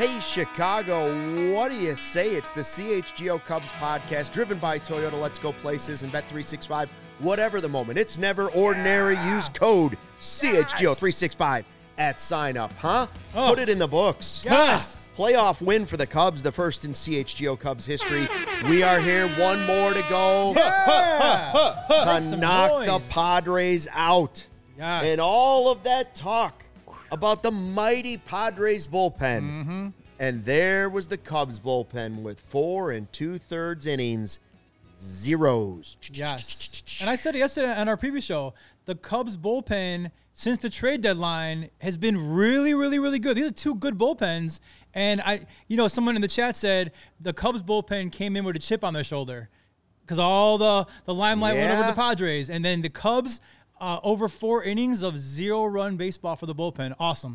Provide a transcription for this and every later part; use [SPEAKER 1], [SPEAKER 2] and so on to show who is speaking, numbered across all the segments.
[SPEAKER 1] Hey, Chicago, what do you say? It's the CHGO Cubs podcast driven by Toyota. Let's go places and Bet365. Whatever the moment, it's never ordinary. Use code CHGO365 at sign up, huh? Put it in the books.
[SPEAKER 2] Yes.
[SPEAKER 1] Playoff win for the Cubs, the first in CHGO Cubs history. We are here, one more to go to knock the Padres out.
[SPEAKER 2] Yes.
[SPEAKER 1] And all of that talk about the mighty Padres bullpen.
[SPEAKER 2] Mm-hmm.
[SPEAKER 1] And there was the Cubs bullpen with 4 2/3 innings, zeros.
[SPEAKER 2] Yes. And I said it yesterday on our previous show, the Cubs bullpen since the trade deadline has been really, really, really good. These are two good bullpens. And someone in the chat said the Cubs bullpen came in with a chip on their shoulder because all the limelight went over the Padres. And then the Cubs, over 4 innings of 0-run baseball for the bullpen. Awesome.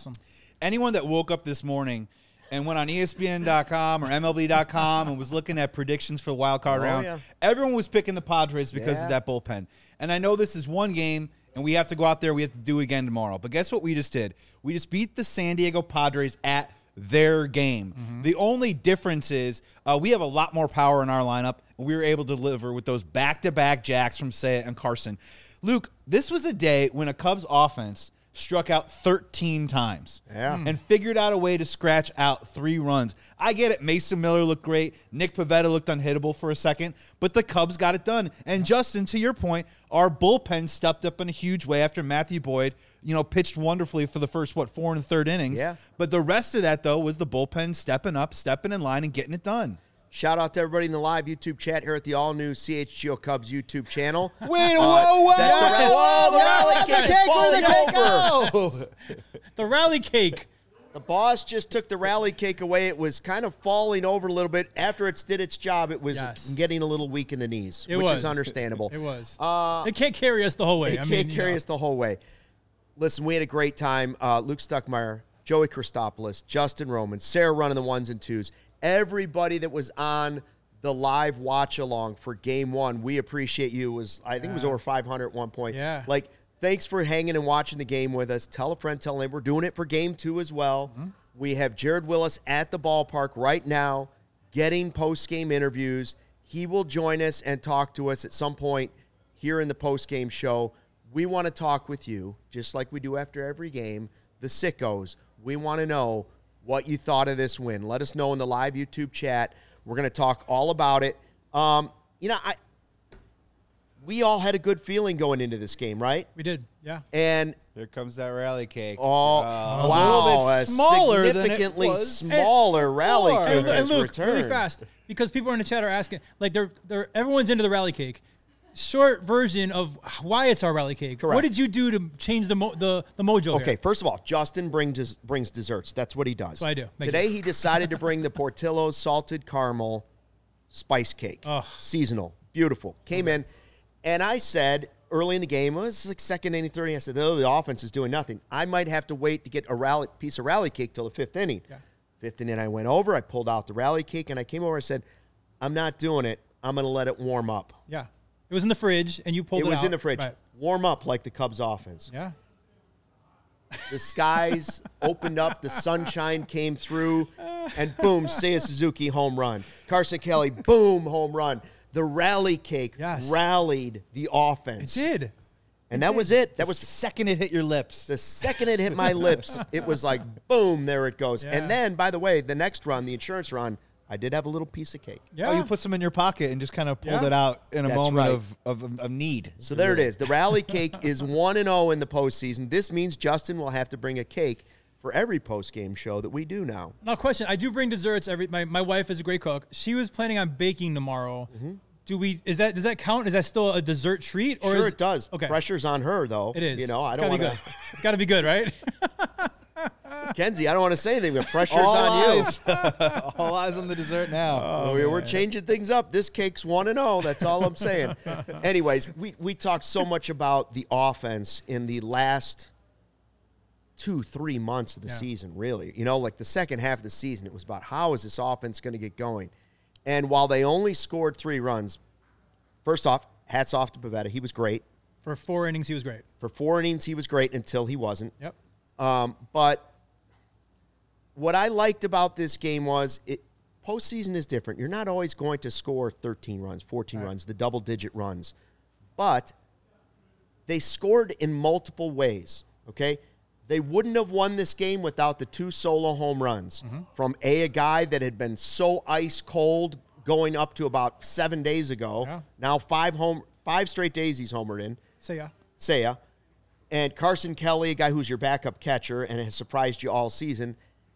[SPEAKER 3] Anyone that woke up this morning and went on ESPN.com or MLB.com and was looking at predictions for the wild card round, everyone was picking the Padres because of that bullpen. And I know this is one game, and we have to go out there. We have to do it again tomorrow. But guess what we just did? We just beat the San Diego Padres at their game. Mm-hmm. The only difference is we have a lot more power in our lineup, and we were able to deliver with those back-to-back jacks from Seiya and Carson. Luke, this was a day when a Cubs offense struck out 13 times and figured out a way to scratch out 3 runs. I get it. Mason Miller looked great. Nick Pivetta looked unhittable for a second, but the Cubs got it done. And Justin, to your point, our bullpen stepped up in a huge way after Matthew Boyd, pitched wonderfully for the first, 4 1/3 innings. Yeah. But the rest of that, though, was the bullpen stepping up, stepping in line, and getting it done.
[SPEAKER 1] Shout out to everybody in the live YouTube chat here at the all-new CHGO Cubs YouTube channel.
[SPEAKER 3] Wait, whoa!
[SPEAKER 1] The rally cake is falling over.
[SPEAKER 2] The rally cake.
[SPEAKER 1] The boss just took the rally cake away. It was kind of falling over a little bit. After it did its job, it was getting a little weak in the knees, which is understandable.
[SPEAKER 2] It was. It can't carry us the whole way.
[SPEAKER 1] It can't carry us the whole way. Listen, we had a great time. Luke Stuckmeyer, Joey Christopoulos, Justin Roman, Sarah running the 1s and 2s. Everybody that was on the live watch along for game 1, we appreciate you. I think it was over 500 at one point.
[SPEAKER 2] Yeah.
[SPEAKER 1] Thanks for hanging and watching the game with us. Tell a friend, tell a neighbor. We're doing it for game 2 as well. Mm-hmm. We have Jared Willis at the ballpark right now getting post-game interviews. He will join us and talk to us at some point here in the post-game show. We want to talk with you, just like we do after every game, the sickos. We want to know what you thought of this win. Let us know in the live YouTube chat. We're going to talk all about it. We all had a good feeling going into this game, right?
[SPEAKER 2] We did, yeah.
[SPEAKER 1] And
[SPEAKER 3] here comes that rally cake.
[SPEAKER 1] Wow.
[SPEAKER 3] A little bit smaller
[SPEAKER 1] significantly
[SPEAKER 3] than it was.
[SPEAKER 1] smaller rally cake has
[SPEAKER 2] Luke,
[SPEAKER 1] returned.
[SPEAKER 2] really fast, because people in the chat are asking, everyone's into the rally cake. Short version of why it's our rally cake.
[SPEAKER 1] Correct.
[SPEAKER 2] What did you do to change the mojo
[SPEAKER 1] Okay,
[SPEAKER 2] here?
[SPEAKER 1] first of all, Justin brings desserts. That's what he does.
[SPEAKER 2] That's what I do.
[SPEAKER 1] Today he decided to bring the Portillo's salted caramel spice cake. Seasonal. Beautiful. Came in, and I said early in the game, it was like second inning, third inning, I said, the offense is doing nothing. I might have to wait to get a piece of rally cake till the 5th inning. Yeah. 5th inning, I went over, I pulled out the rally cake, and I came over and said, I'm not doing it. I'm going to let it warm up.
[SPEAKER 2] Yeah. It was in the fridge, and you pulled it out.
[SPEAKER 1] It was in the fridge.
[SPEAKER 2] Right.
[SPEAKER 1] Warm up like the Cubs offense.
[SPEAKER 2] Yeah.
[SPEAKER 1] The skies opened up. The sunshine came through. And boom, Seiya Suzuki home run. Carson Kelly, boom, home run. The rally cake rallied the offense.
[SPEAKER 2] It did.
[SPEAKER 1] And that was it. That was
[SPEAKER 3] the second it hit your lips.
[SPEAKER 1] The second it hit my lips, it was like, boom, there it goes. Yeah. And then, by the way, the next run, the insurance run, I did have a little piece of cake.
[SPEAKER 2] Yeah.
[SPEAKER 3] Oh, you put some in your pocket and just kind of pulled it out in a moment of need.
[SPEAKER 1] So there it is. The rally cake is 1-0 in the postseason. This means Justin will have to bring a cake for every post-game show that we do now.
[SPEAKER 2] Now, question. I do bring desserts. My wife is a great cook. She was planning on baking tomorrow. Mm-hmm. Does that count? Is that still a dessert treat? Or
[SPEAKER 1] sure, it does.
[SPEAKER 2] Okay.
[SPEAKER 1] Pressure's on her, though.
[SPEAKER 2] It is.
[SPEAKER 1] I don't want to.
[SPEAKER 2] It's got to be good, right?
[SPEAKER 1] Kenzie, I don't want to say anything, but pressure's on you.
[SPEAKER 3] All eyes on the dessert now.
[SPEAKER 1] We're changing things up. This cake's 1-0. That's all I'm saying. Anyways, we talked so much about the offense in the last 2-3 months of the season, really. The second half of the season, it was about how is this offense going to get going. And while they only scored 3 runs, first off, hats off to Pivetta. He was great.
[SPEAKER 2] For 4 innings, he was great.
[SPEAKER 1] For 4 innings, he was great until he wasn't.
[SPEAKER 2] Yep.
[SPEAKER 1] But what I liked about this game was postseason is different. You're not always going to score 13 runs, 14 runs, the double-digit runs. But they scored in multiple ways, okay? They wouldn't have won this game without the 2 solo home runs from a guy that had been so ice cold going up to about 7 days ago. Yeah. Now 5 straight days he's homered in. Seiya. And Carson Kelly, a guy who's your backup catcher and has surprised you all season.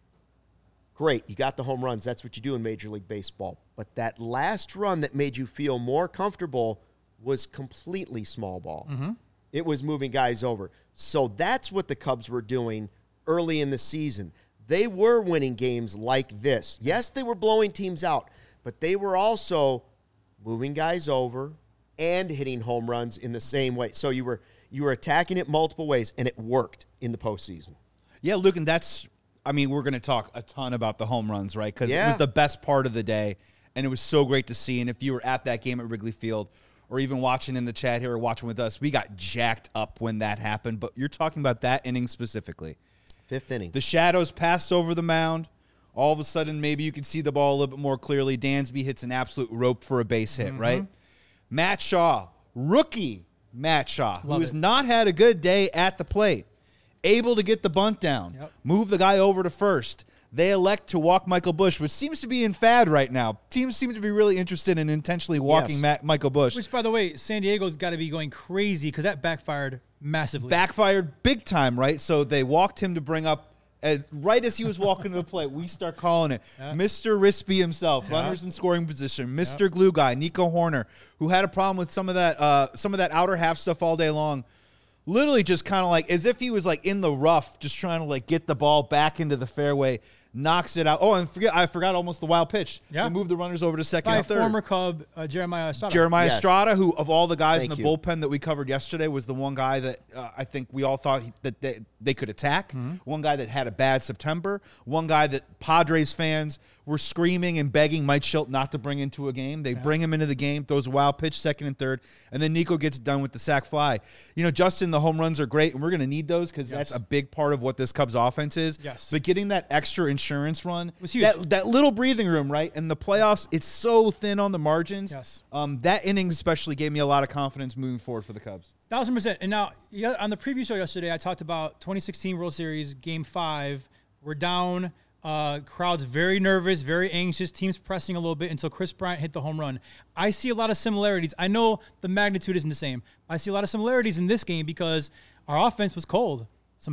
[SPEAKER 1] Great, you got the home runs. That's what you do in Major League Baseball. But that last run that made you feel more comfortable was completely small ball. It was moving guys over. So that's what the Cubs were doing early in the season. They were winning games like this. Yes, they were blowing teams out, but they were also moving guys over and hitting home runs in the same way. So you were attacking it multiple ways, and it worked in the postseason.
[SPEAKER 3] Yeah, Luke, and we're going to talk a ton about the home runs, right? Because it was the best part of the day, and it was so great to see. And if you were at that game at Wrigley Field, or even watching in the chat here or watching with us, we got jacked up when that happened. But you're talking about that inning specifically.
[SPEAKER 1] 5th inning.
[SPEAKER 3] The shadows passed over the mound. All of a sudden, maybe you can see the ball a little bit more clearly. Dansby hits an absolute rope for a base hit, right? Matt Shaw, rookie Matt Shaw, who has not had a good day at the plate, able to get the bunt down, move the guy over to first. They elect to walk Michael Busch, which seems to be in fad right now. Teams seem to be really interested in intentionally walking Michael Busch.
[SPEAKER 2] Which, by the way, San Diego's got to be going crazy because that backfired massively.
[SPEAKER 3] Backfired big time, right? So they walked him to bring up, right as he was walking to the plate, we start calling it Mr. Rispy himself, runners in scoring position, Mr. Glue Guy, Nico Horner, who had a problem with some of that outer half stuff all day long. Literally just kind of like as if he was like in the rough, just trying to like get the ball back into the fairway, knocks it out. Oh, and I forgot almost the wild pitch. They moved the runners over to second and third.
[SPEAKER 2] Former Cub Jeremiah Estrada.
[SPEAKER 3] Jeremiah Estrada, who of all the guys in the bullpen that we covered yesterday was the one guy that I think we all thought that they could attack. One guy that had a bad September. One guy that Padres fans were screaming and begging Mike Shildt not to bring into a game. They bring him into the game, throws a wild pitch, second and third, and then Nico gets done with the sac fly. You know, Justin, the home runs are great, and we're going to need those because that's a big part of what this Cubs offense is. But getting that extra insurance run
[SPEAKER 2] was huge.
[SPEAKER 3] That little breathing room, right? In the playoffs, it's so thin on the margins. That inning especially gave me a lot of confidence moving forward for the Cubs.
[SPEAKER 2] 1,000%. And now, on the preview show yesterday, I talked about 2016 World Series, Game 5. We're down. Crowd's very nervous, very anxious. Teams pressing a little bit until Chris Bryant hit the home run. I see a lot of similarities. I know the magnitude isn't the same. I see a lot of similarities in this game because our offense was cold.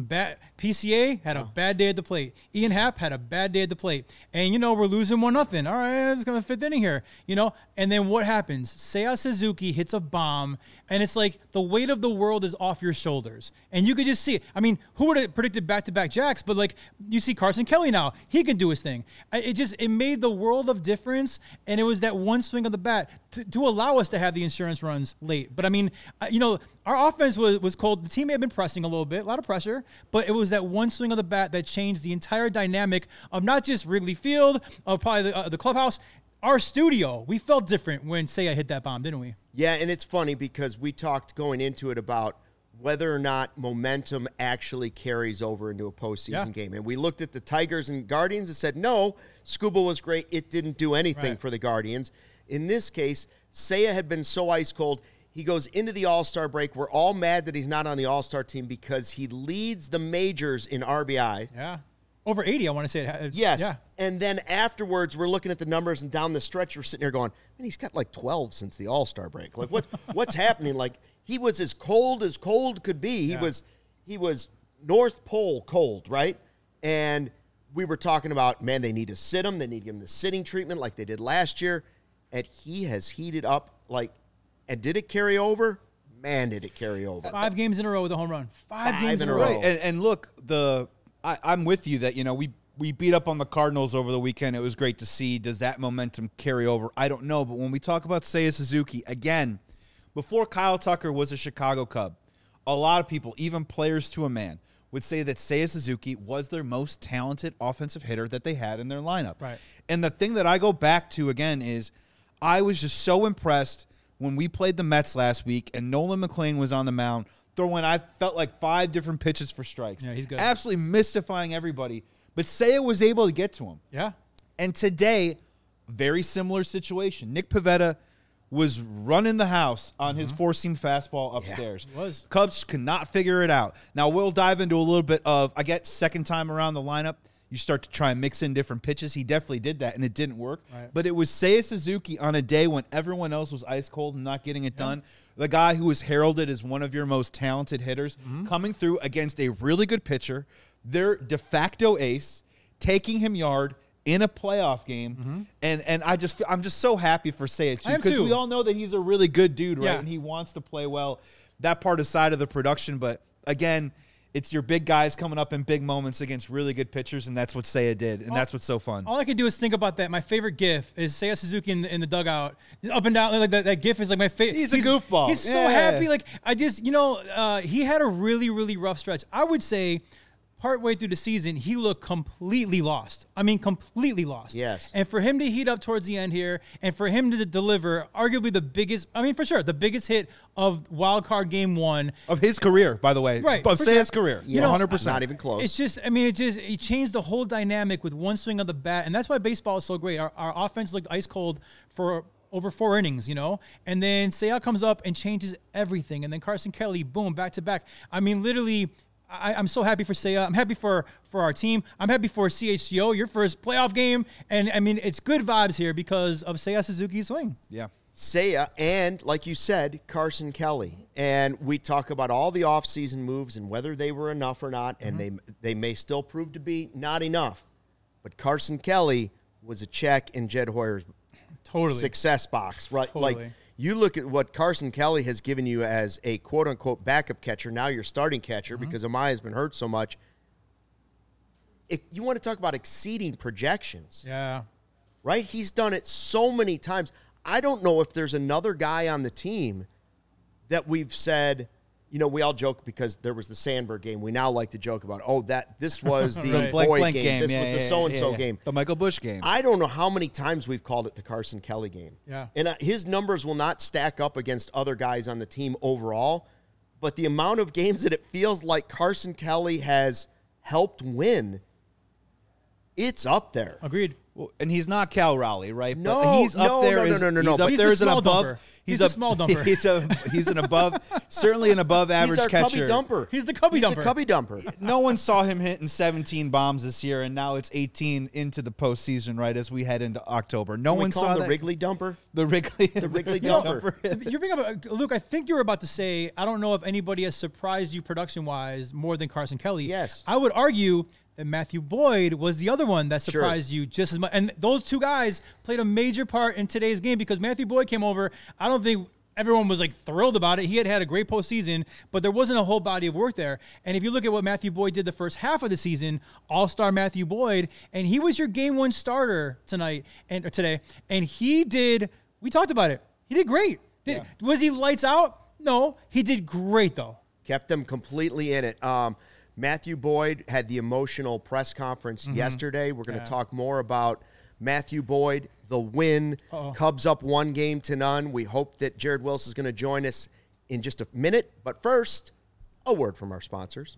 [SPEAKER 2] PCA had a bad day at the plate. Ian Happ had a bad day at the plate. And, we're losing 1-0. All right, it's going to 5th inning here, And then what happens? Seiya Suzuki hits a bomb, and it's like the weight of the world is off your shoulders. And you could just see it. I mean, who would have predicted back-to-back jacks? But, you see Carson Kelly now. He can do his thing. It made the world of difference, and it was that one swing of the bat to allow us to have the insurance runs late. But, our offense was cold. The team may have been pressing a little bit, a lot of pressure, but it was that one swing of the bat that changed the entire dynamic of not just Wrigley Field, of probably the clubhouse, our studio. We felt different when Seiya hit that bomb, didn't we?
[SPEAKER 1] Yeah, and it's funny because we talked going into it about whether or not momentum actually carries over into a postseason game. And we looked at the Tigers and Guardians and said, no, Scuba was great. It didn't do anything for the Guardians. In this case, Seiya had been so ice cold. He goes into the All-Star break. We're all mad that he's not on the All-Star team because he leads the majors in RBI.
[SPEAKER 2] Yeah. Over 80, I want to say.
[SPEAKER 1] Yes.
[SPEAKER 2] Yeah.
[SPEAKER 1] And then afterwards, we're looking at the numbers, and down the stretch, we're sitting here going, man, he's got 12 since the All-Star break. What's happening? He was as cold could be. He was North Pole cold, right? And we were talking about, man, they need to sit him. They need to give him the sitting treatment like they did last year. And he has heated up and did it carry over? Man, did it carry over.
[SPEAKER 2] 5 games in a row with a home run. 5 games in a row.
[SPEAKER 3] Right. And look, I'm with you that, we beat up on the Cardinals over the weekend. It was great to see. Does that momentum carry over? I don't know. But when we talk about Seiya Suzuki, again, before Kyle Tucker was a Chicago Cub, a lot of people, even players to a man, would say that Seiya Suzuki was their most talented offensive hitter that they had in their lineup.
[SPEAKER 2] Right.
[SPEAKER 3] And the thing that I go back to, again, is I was just so impressed when we played the Mets last week and Nolan McLean was on the mound throwing, I felt like 5 different pitches for strikes.
[SPEAKER 2] Yeah, he's good.
[SPEAKER 3] Absolutely mystifying everybody. But Seiya was able to get to him.
[SPEAKER 2] Yeah.
[SPEAKER 3] And today, very similar situation. Nick Pivetta was running the house on his four-seam fastball upstairs.
[SPEAKER 2] He was.
[SPEAKER 3] Cubs could not figure it out. Now, we'll dive into a little bit of, I guess, second time around the lineup, you start to try and mix in different pitches. He definitely did that, and it didn't work.
[SPEAKER 2] Right.
[SPEAKER 3] But it was Seiya Suzuki on a day when everyone else was ice cold and not getting it done. The guy who was heralded as one of your most talented hitters coming through against a really good pitcher, their de facto ace, taking him yard in a playoff game. And I'm just so happy for Seiya, too, because we all know that he's a really good dude, right?
[SPEAKER 2] Yeah.
[SPEAKER 3] And he wants to play well. That part aside of the production, but again, it's your big guys coming up in big moments against really good pitchers, and that's what Seiya did, and that's what's so fun.
[SPEAKER 2] All I can do is think about that. My favorite GIF is Seiya Suzuki in the dugout, up and down. Like that GIF is like my favorite.
[SPEAKER 3] He's a goofball.
[SPEAKER 2] He's so happy. Like I just, he had a really, really rough stretch. I would say, partway through the season, he looked completely lost. I mean, completely lost.
[SPEAKER 1] Yes.
[SPEAKER 2] And for him to heat up towards the end here, and for him to deliver arguably the biggest, for sure, the biggest hit of Wild Card Game 1
[SPEAKER 3] Of his career, by the way.
[SPEAKER 2] Right,
[SPEAKER 3] Of
[SPEAKER 2] for
[SPEAKER 3] Seiya's
[SPEAKER 2] sure.
[SPEAKER 3] career.
[SPEAKER 1] Yeah,
[SPEAKER 3] 100%.
[SPEAKER 1] Not even close.
[SPEAKER 2] It's just, he changed the whole dynamic with one swing of the bat, and that's why baseball is so great. Our offense looked ice cold for over 4 innings, and then Seiya comes up and changes everything, and then Carson Kelly, boom, back to back. I mean, literally, I'm so happy for Seiya. I'm happy for our team. I'm happy for CHGO, your first playoff game, and it's good vibes here because of Seiya Suzuki's swing.
[SPEAKER 3] Yeah.
[SPEAKER 1] Seiya and, like you said, Carson Kelly. And we talk about all the offseason moves and whether they were enough or not, and they may still prove to be not enough. But Carson Kelly was a check in Jed Hoyer's success box, right?
[SPEAKER 2] Totally.
[SPEAKER 1] Like, you look at what Carson Kelly has given you as a quote-unquote backup catcher, now you're starting catcher because Amaya's been hurt so much. You want to talk about exceeding projections.
[SPEAKER 2] Yeah.
[SPEAKER 1] Right? He's done it so many times. I don't know if there's another guy on the team that we've said, we all joke because there was the Sandberg game. We now like to joke about, this was the Boyd game. This was the so-and-so game.
[SPEAKER 3] The Michael Busch game.
[SPEAKER 1] I don't know how many times we've called it the Carson Kelly game.
[SPEAKER 2] Yeah.
[SPEAKER 1] And his numbers will not stack up against other guys on the team overall, but the amount of games that it feels like Carson Kelly has helped win, it's up there.
[SPEAKER 2] Agreed.
[SPEAKER 3] Well, and he's not Cal Raleigh, right?
[SPEAKER 1] No,
[SPEAKER 3] but he's up there.
[SPEAKER 1] No.
[SPEAKER 3] He's
[SPEAKER 1] But
[SPEAKER 3] up
[SPEAKER 2] he's
[SPEAKER 3] there
[SPEAKER 2] a
[SPEAKER 3] as an
[SPEAKER 2] small
[SPEAKER 3] above.
[SPEAKER 2] dumper. He's a small dumper.
[SPEAKER 3] He's an above, certainly an above average
[SPEAKER 1] He's our
[SPEAKER 3] catcher.
[SPEAKER 1] cubby dumper.
[SPEAKER 2] He's the cubby dumper.
[SPEAKER 1] The cubby dumper.
[SPEAKER 3] No one saw him hitting 17 bombs this year, and now it's 18 into the postseason, right, as we head into October. No one saw
[SPEAKER 1] the
[SPEAKER 3] that.
[SPEAKER 1] Wrigley dumper.
[SPEAKER 3] The Wrigley
[SPEAKER 1] dumper.
[SPEAKER 2] You bring up, Luke, I think you were about to say, I don't know if anybody has surprised you production-wise more than Carson Kelly.
[SPEAKER 1] Yes.
[SPEAKER 2] I would argue that Matthew Boyd was the other one that surprised you just as much. And those two guys played a major part in today's game because Matthew Boyd came over. I don't think everyone was thrilled about it. He had a great postseason, but there wasn't a whole body of work there. And if you look at what Matthew Boyd did the first half of the season, all-star Matthew Boyd, and he was your game 1 starter today. And he did, we talked about it. He did great. Was he lights out? No, he did great though.
[SPEAKER 1] Kept them completely in it. Matthew Boyd had the emotional press conference yesterday. We're going to talk more about Matthew Boyd, the win. Cubs up 1-0. We hope that Jared Wilson is going to join us in just a minute. But first, a word from our sponsors.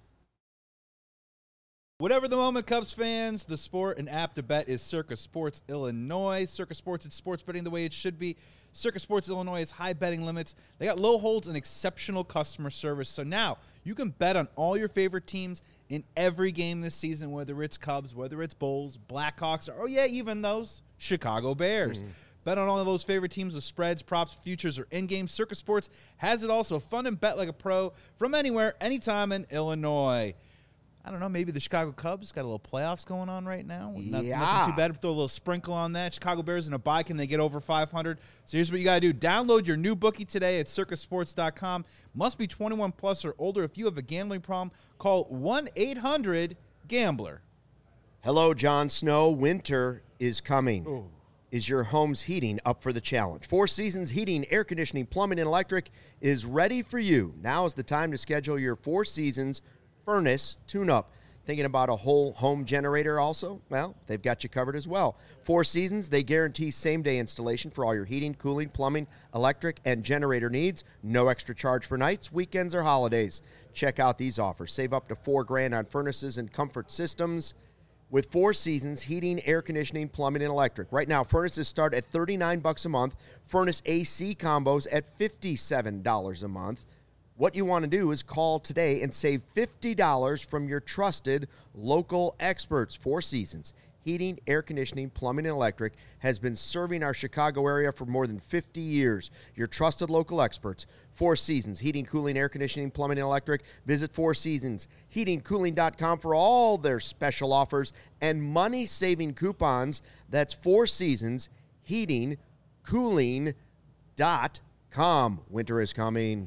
[SPEAKER 3] Whatever the moment, Cubs fans, the sport and app to bet is Circa Sports Illinois. Circa Sports, it's sports betting the way it should be. Circa Sports Illinois has high betting limits. They got low holds and exceptional customer service. So now you can bet on all your favorite teams in every game this season, whether it's Cubs, whether it's Bulls, Blackhawks, or even those Chicago Bears. Bet on all of those favorite teams with spreads, props, futures, or in-game. Circa Sports has it all, so fun and bet like a pro from anywhere, anytime in Illinois. I don't know, maybe the Chicago Cubs got a little playoffs going on right now. Nothing too bad. Throw a little sprinkle on that. Chicago Bears in a bye. Can they get over 500? So here's what you got to do. Download your new bookie today at circasports.com. Must be 21 plus or older. If you have a gambling problem, call 1-800-GAMBLER.
[SPEAKER 1] Hello, Jon Snow. Winter is coming. Ooh. Is your home's heating up for the challenge? Four Seasons Heating, Air Conditioning, Plumbing, and Electric is ready for you. Now is the time to schedule your Four Seasons furnace tune-up. Thinking about a whole home generator also? Well, they've got you covered as well. Four Seasons, they guarantee same-day installation for all your heating, cooling, plumbing, electric, and generator needs. No extra charge for nights, weekends, or holidays. Check out these offers. Save up to $4,000 on furnaces and comfort systems. with Four Seasons heating, air conditioning, plumbing, and electric. Right now, furnaces start at $39 a month. Furnace AC combos at $57 a month. What you want to do is call today and save $50 from your trusted local experts. Four Seasons heating, air conditioning, plumbing, and electric has been serving our Chicago area for more than 50 years. Your trusted local experts. Four Seasons heating, cooling, air conditioning, plumbing, and electric. Visit Four Seasons heatingcooling.com for all their special offers and money-saving coupons. That's Four Seasons heatingcooling.com. Winter is coming.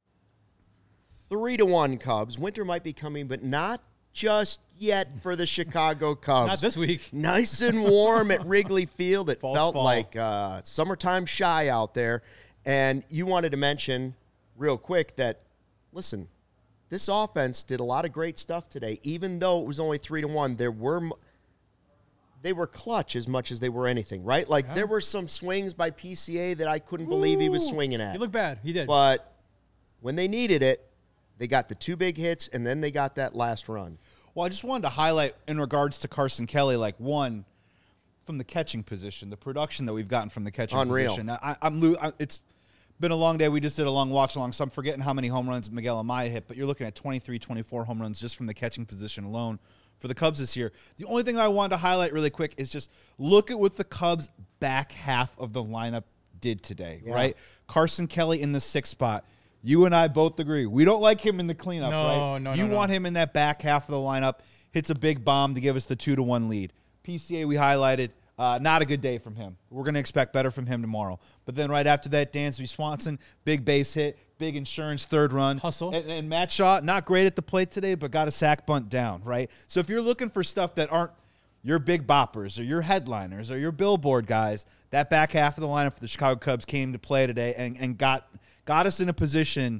[SPEAKER 1] 3-1 Cubs. Winter might be coming, but not just yet for the Chicago Cubs.
[SPEAKER 2] Not this week.
[SPEAKER 1] Nice and warm at Wrigley Field. It
[SPEAKER 3] False
[SPEAKER 1] felt
[SPEAKER 3] fall.
[SPEAKER 1] like summertime shy out there. And you wanted to mention real quick that, listen, this offense did a lot of great stuff today. Even though it was only 3-1, they were clutch as much as they were anything, right? Like, there were some swings by PCA that I couldn't believe he was swinging at.
[SPEAKER 2] He looked bad. He did.
[SPEAKER 1] But when they needed it, they got the 2 big hits, and then they got that last run.
[SPEAKER 3] Well, I just wanted to highlight in regards to Carson Kelly, like, one, from the catching position, the production that we've gotten from the catching position. It's been a long day. We just did a long watch along, so I'm forgetting how many home runs Miguel Amaya hit, but you're looking at 23, 24 home runs just from the catching position alone for the Cubs this year. The only thing I wanted to highlight really quick is just look at what the Cubs' back half of the lineup did today, right? Carson Kelly in the 6th spot. You and I both agree. We don't like him in the cleanup, right? You want him in that back half of the lineup. Hits a big bomb to give us the 2-1 lead. PCA, we highlighted. Not a good day from him. We're going to expect better from him tomorrow. But then right after that, Dansby Swanson, big base hit, big insurance 3rd run.
[SPEAKER 2] Hustle.
[SPEAKER 3] And Matt Shaw, not great at the plate today, but got a sack bunt down, right? So if you're looking for stuff that aren't your big boppers or your headliners or your billboard guys, that back half of the lineup for the Chicago Cubs came to play today and got us in a position.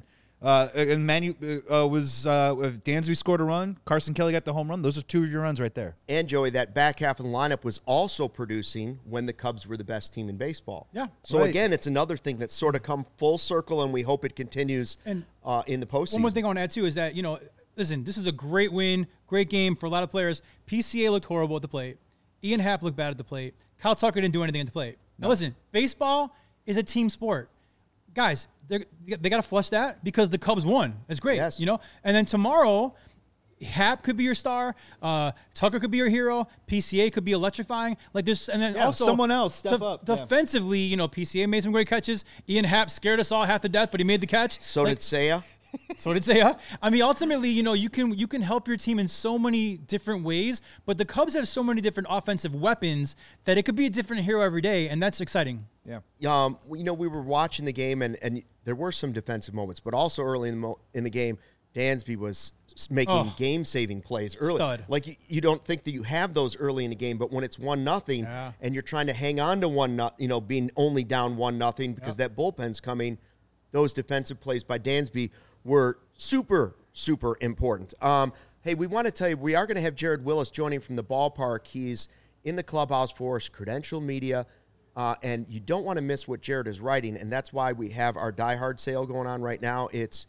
[SPEAKER 3] If Dansby scored a run, Carson Kelly got the home run. Those are 2 of your runs right there.
[SPEAKER 1] And, Joey, that back half of the lineup was also producing when the Cubs were the best team in baseball.
[SPEAKER 2] Yeah.
[SPEAKER 1] So, again, it's another thing that's sort of come full circle, and we hope it continues in the postseason.
[SPEAKER 2] One more thing I want to add, too, is that, listen, this is a great win, great game for a lot of players. PCA looked horrible at the plate. Ian Happ looked bad at the plate. Kyle Tucker didn't do anything at the plate. Now, listen, baseball is a team sport. Guys, they got to flush that because the Cubs won. It's great,
[SPEAKER 1] Yes.
[SPEAKER 2] And then tomorrow, Happ could be your star. Tucker could be your hero. PCA could be electrifying. Like this, and then also
[SPEAKER 3] someone else step up.
[SPEAKER 2] Defensively, PCA made some great catches. Ian Happ scared us all half to death, but he made the catch.
[SPEAKER 1] So did Seiya.
[SPEAKER 2] So did Seiya. I mean, ultimately, you can help your team in so many different ways, but the Cubs have so many different offensive weapons that it could be a different hero every day, and that's exciting.
[SPEAKER 3] Yeah.
[SPEAKER 1] We were watching the game, and there were some defensive moments, but also early in the game, Dansby was making game-saving plays early.
[SPEAKER 2] Stud.
[SPEAKER 1] Like, you don't think that you have those early in the game, but when it's 1-0 and you're trying to hang on to 1-0, being only down 1-0 because that bullpen's coming, those defensive plays by Dansby were super, super important. Hey, we want to tell you, we are going to have Jared Willis joining from the ballpark. He's in the clubhouse for us, Credential Media, and you don't want to miss what Jared is writing, and that's why we have our Die Hard sale going on right now. It's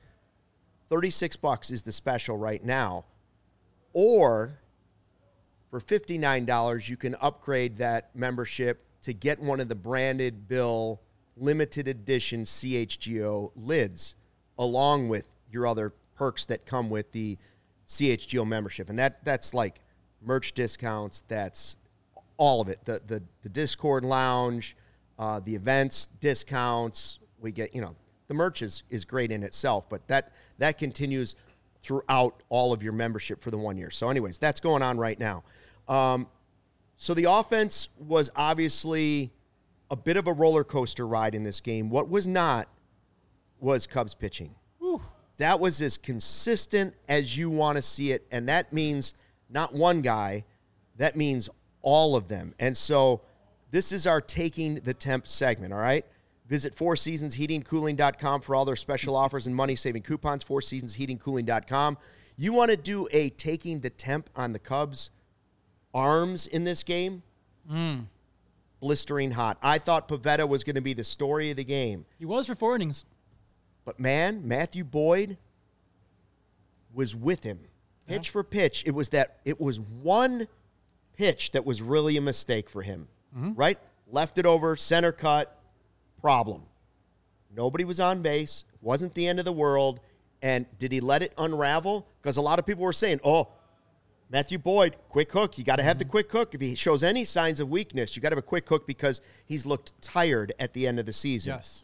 [SPEAKER 1] $36 is the special right now, or for $59, you can upgrade that membership to get one of the branded bill limited edition CHGO lids, along with your other perks that come with the CHGO membership. And that's like merch discounts, that's all of it. The Discord lounge, the events discounts, we get, the merch is great in itself, but that continues throughout all of your membership for the 1 year. So anyways, that's going on right now. So the offense was obviously a bit of a roller coaster ride in this game. What was not was Cubs pitching.
[SPEAKER 2] Whew.
[SPEAKER 1] That was as consistent as you want to see it, and that means not one guy. That means all of them. And so this is our Taking the Temp segment, all right? Visit fourseasonsheatingcooling.com for all their special offers and money-saving coupons, fourseasonsheatingcooling.com. You want to do a Taking the Temp on the Cubs' arms in this game? Blistering hot. I thought Pivetta was going to be the story of the game.
[SPEAKER 2] He was for 4 innings.
[SPEAKER 1] But, man, Matthew Boyd was with him. Pitch for pitch. It was one pitch that was really a mistake for him, right? Left it over, center cut, problem. Nobody was on base. Wasn't the end of the world. And did he let it unravel? Because a lot of people were saying, oh, Matthew Boyd, quick hook. You got to have the quick hook. If he shows any signs of weakness, you got to have a quick hook because he's looked tired at the end of the season.
[SPEAKER 2] Yes.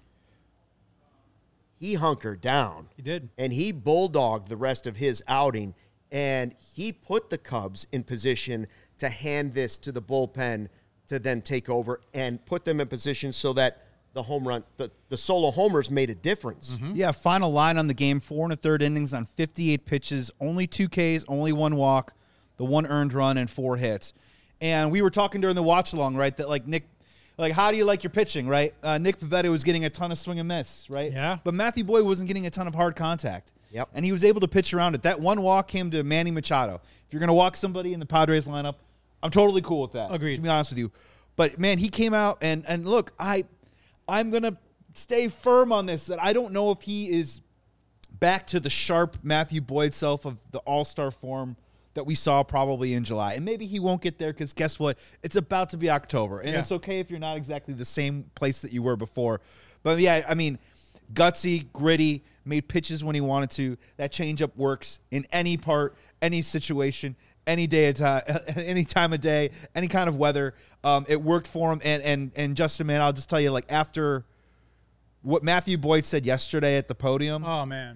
[SPEAKER 1] He hunkered down.
[SPEAKER 2] He did.
[SPEAKER 1] And he bulldogged the rest of his outing. And he put the Cubs in position to hand this to the bullpen to then take over and put them in position so that the home run, the solo homers made a difference.
[SPEAKER 3] Yeah, final line on the game, 4 1/3 innings on 58 pitches, only 2 Ks, only 1 walk, the 1 earned run, and 4 hits. And we were talking during the watch-along, right, that like Nick, like how do you like your pitching, right? Nick Pivetta was getting a ton of swing and miss, right?
[SPEAKER 2] Yeah.
[SPEAKER 3] But Matthew Boyd wasn't getting a ton of hard contact.
[SPEAKER 1] Yep.
[SPEAKER 3] And he was able to pitch around it. That 1 walk came to Manny Machado. If you're going to walk somebody in the Padres lineup, I'm totally cool with that.
[SPEAKER 2] Agreed.
[SPEAKER 3] To be honest with you. But, man, he came out, and look, I'm going to stay firm on this, that I don't know if he is back to the sharp Matthew Boyd self of the all-star form that we saw probably in July. And maybe he won't get there because guess what? It's about to be October. And it's okay if you're not exactly the same place that you were before. But, yeah, I mean, gutsy, gritty, made pitches when he wanted to. That changeup works in any part, any situation, any day of time, any time of day, any kind of weather. It worked for him. And Justin, man, I'll just tell you, like, after what Matthew Boyd said yesterday at the podium.
[SPEAKER 2] Oh, man.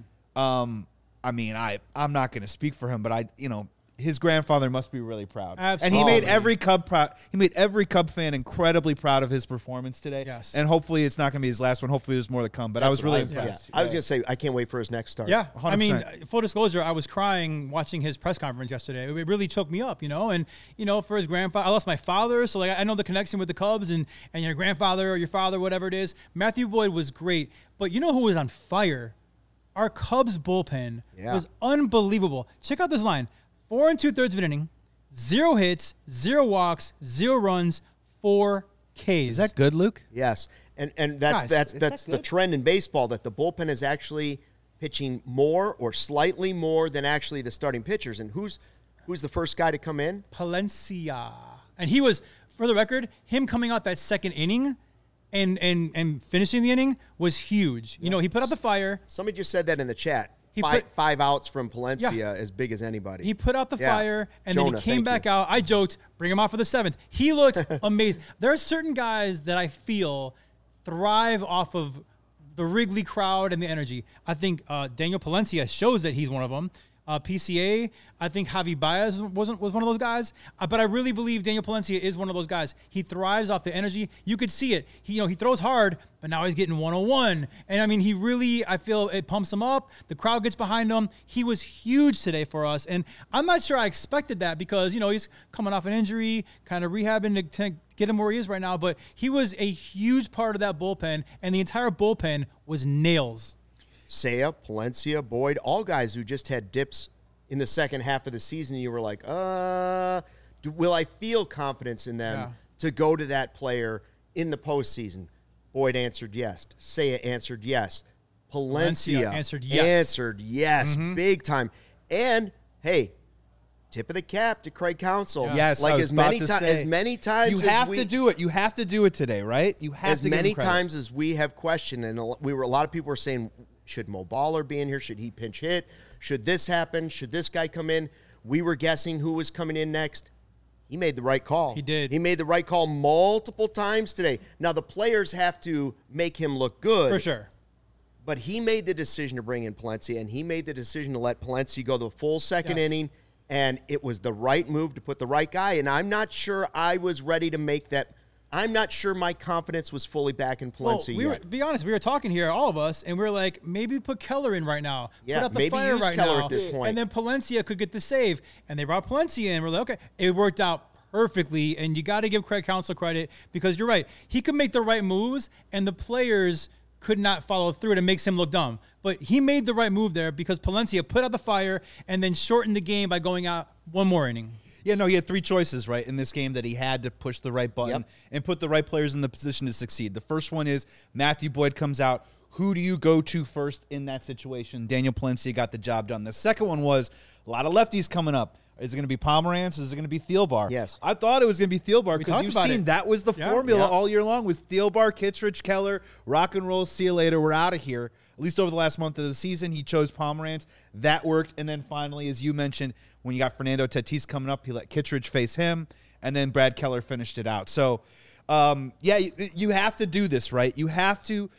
[SPEAKER 3] I mean, I'm not going to speak for him, but his grandfather must be really proud.
[SPEAKER 2] Absolutely.
[SPEAKER 3] And he made every Cub proud. He made every Cub fan incredibly proud of his performance today.
[SPEAKER 2] Yes.
[SPEAKER 3] And hopefully it's not going to be his last one. Hopefully there's more to come. But I was really impressed.
[SPEAKER 1] I was going to say, I can't wait for his next start.
[SPEAKER 2] Yeah.
[SPEAKER 3] 100%.
[SPEAKER 2] I mean, full disclosure, I was crying watching his press conference yesterday. It really choked me up, And, for his grandfather, I lost my father. So, I know the connection with the Cubs and your grandfather or your father, whatever it is. Matthew Boyd was great. But you know who was on fire? Our Cubs bullpen was unbelievable. Check out this line. 4 2/3 of an inning, 0 hits, 0 walks, 0 runs, 4 Ks.
[SPEAKER 3] Is that good, Luke?
[SPEAKER 1] Yes. And that's the trend in baseball, that the bullpen is actually pitching more or slightly more than actually the starting pitchers. And who's the first guy to come in?
[SPEAKER 2] Palencia. And he was, for the record, him coming out that second inning and finishing the inning was huge. He put out the fire.
[SPEAKER 1] Somebody just said that in the chat. Five outs from Palencia, as big as anybody.
[SPEAKER 2] He put out the fire, and
[SPEAKER 1] Jonah,
[SPEAKER 2] then he came back out. I joked, bring him out for the 7th. He looked amazing. There are certain guys that I feel thrive off of the Wrigley crowd and the energy. I think Daniel Palencia shows that he's one of them. PCA, I think Javi Baez was one of those guys. But I really believe Daniel Palencia is one of those guys. He thrives off the energy. You could see it. He throws hard, but now he's getting 101. And I mean, I feel it pumps him up. The crowd gets behind him. He was huge today for us. And I'm not sure I expected that because, he's coming off an injury, kind of rehabbing to get him where he is right now. But he was a huge part of that bullpen, and the entire bullpen was nails.
[SPEAKER 1] Seiya, Palencia, Boyd, all guys who just had dips in the second half of the season. You were like, will I feel confidence in them to go to that player in the postseason? Boyd answered yes. Seiya answered yes. Palencia answered yes. Big time. And, hey, tip of the cap to Craig Counsell.
[SPEAKER 3] Yes,
[SPEAKER 1] like as many times
[SPEAKER 3] you have to do it. You have to do it today, right? You have
[SPEAKER 1] as
[SPEAKER 3] to
[SPEAKER 1] many times as we have questioned, and a lot of people were saying, should Mo Baller be in here? Should he pinch hit? Should this happen? Should this guy come in? We were guessing who was coming in next. He made the right call.
[SPEAKER 2] He did.
[SPEAKER 1] He made the right call multiple times today. Now, the players have to make him look good.
[SPEAKER 2] For sure.
[SPEAKER 1] But he made the decision to bring in Palencia, and he made the decision to let Palencia go the full second inning, and it was the right move to put the right guy. And I'm not sure I was ready to make that. I'm not sure my confidence was fully back in Palencia yet.
[SPEAKER 2] Be honest, we were talking here, all of us, and we were like, maybe put Keller in right now.
[SPEAKER 1] Yeah,
[SPEAKER 2] put out the
[SPEAKER 1] maybe
[SPEAKER 2] fire
[SPEAKER 1] use
[SPEAKER 2] right
[SPEAKER 1] Keller
[SPEAKER 2] now,
[SPEAKER 1] at this point.
[SPEAKER 2] And then Palencia could get the save. And they brought Palencia in. We're like, okay, it worked out perfectly. And you got to give Craig Counsell credit because you're right. He could make the right moves, and the players could not follow through it. It makes him look dumb. But he made the right move there because Palencia put out the fire and then shortened the game by going out one more inning.
[SPEAKER 3] Yeah, no, he had 3 choices, right, in this game that he had to push the right button and put the right players in the position to succeed. The first one is Matthew Boyd comes out, who do you go to first in that situation? Daniel Palencia got the job done. The second one was a lot of lefties coming up. Is it going to be Pomerantz? Is it going to be Thielbar?
[SPEAKER 1] Yes.
[SPEAKER 3] I thought it was going to be Thielbar because you've seen that was the formula all year long was Thielbar, Kittredge, Keller, rock and roll, see you later, we're out of here. At least over the last month of the season, he chose Pomerantz. That worked. And then finally, as you mentioned, when you got Fernando Tatis coming up, he let Kittredge face him, and then Brad Keller finished it out. So, you have to do this, right? You have to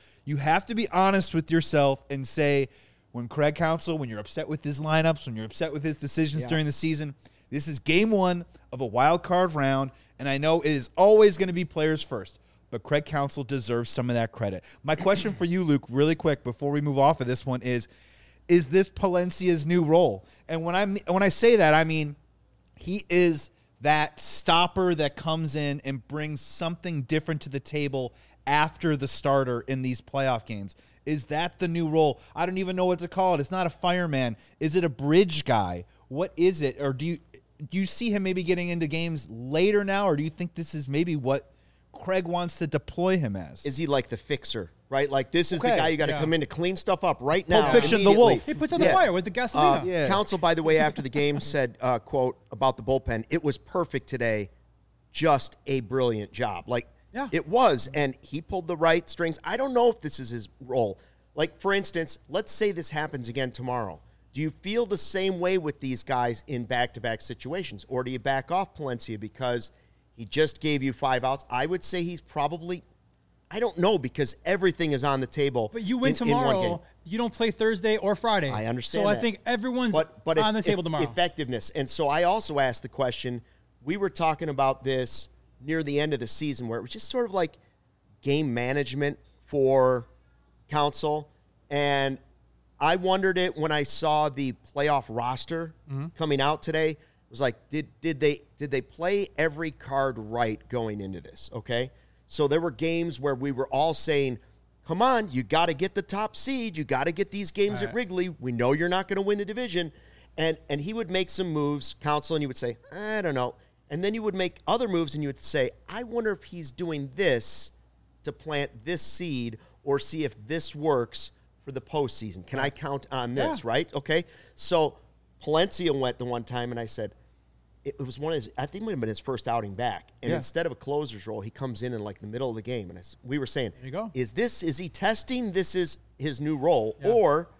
[SPEAKER 3] be honest with yourself and say, when Craig Counsell, when you're upset with his lineups, when you're upset with his decisions during the season, this is game one of a wild card round, and I know it is always going to be players first, but Craig Counsell deserves some of that credit. My question for you, Luke, really quick before we move off of this one is this Palencia's new role? And when I say that, I mean he is that stopper that comes in and brings something different to the table after the starter in these playoff games. Is that the new role? I don't even know what to call it. It's not a fireman. Is it a bridge guy? What is it? Or do you see him maybe getting into games later now, or do you think this is maybe what Craig wants to deploy him as?
[SPEAKER 1] Is he like the fixer, right? Like this is the guy you got to come in to clean stuff up right now.
[SPEAKER 3] Pulp Fiction, the wolf.
[SPEAKER 2] He puts on the fire with the gasolina.
[SPEAKER 1] Counsell, by the way, after the game said, quote, about the bullpen, it was perfect today. Just a brilliant job. Like, it was, and he pulled the right strings. I don't know if this is his role. Like, for instance, let's say this happens again tomorrow. Do you feel the same way with these guys in back-to-back situations, or do you back off Palencia because he just gave you 5 outs? I would say he's probably, I don't know, because everything is on the table.
[SPEAKER 2] But you win tomorrow, you don't play Thursday or Friday.
[SPEAKER 1] I understand
[SPEAKER 2] So
[SPEAKER 1] that.
[SPEAKER 2] I think everyone's on the table tomorrow.
[SPEAKER 1] Effectiveness. And so I also asked the question, we were talking about this near the end of the season where it was just sort of like game management for Counsell. And I wondered it when I saw the playoff roster coming out today. It was like, did they play every card right going into this? Okay. So there were games where we were all saying, come on, you got to get the top seed. You got to get these games at Wrigley. We know you're not going to win the division. And he would make some moves, Counsell, and you would say, I don't know. And then you would make other moves and you would say, I wonder if he's doing this to plant this seed or see if this works for the postseason. Can I count on this, right? Okay. So Palencia went the one time and I said, it was one of his, I think it might have been his first outing back. And instead of a closer's role, he comes in like the middle of the game. And we were saying,
[SPEAKER 2] there you go.
[SPEAKER 1] Is he testing this is his new role? Or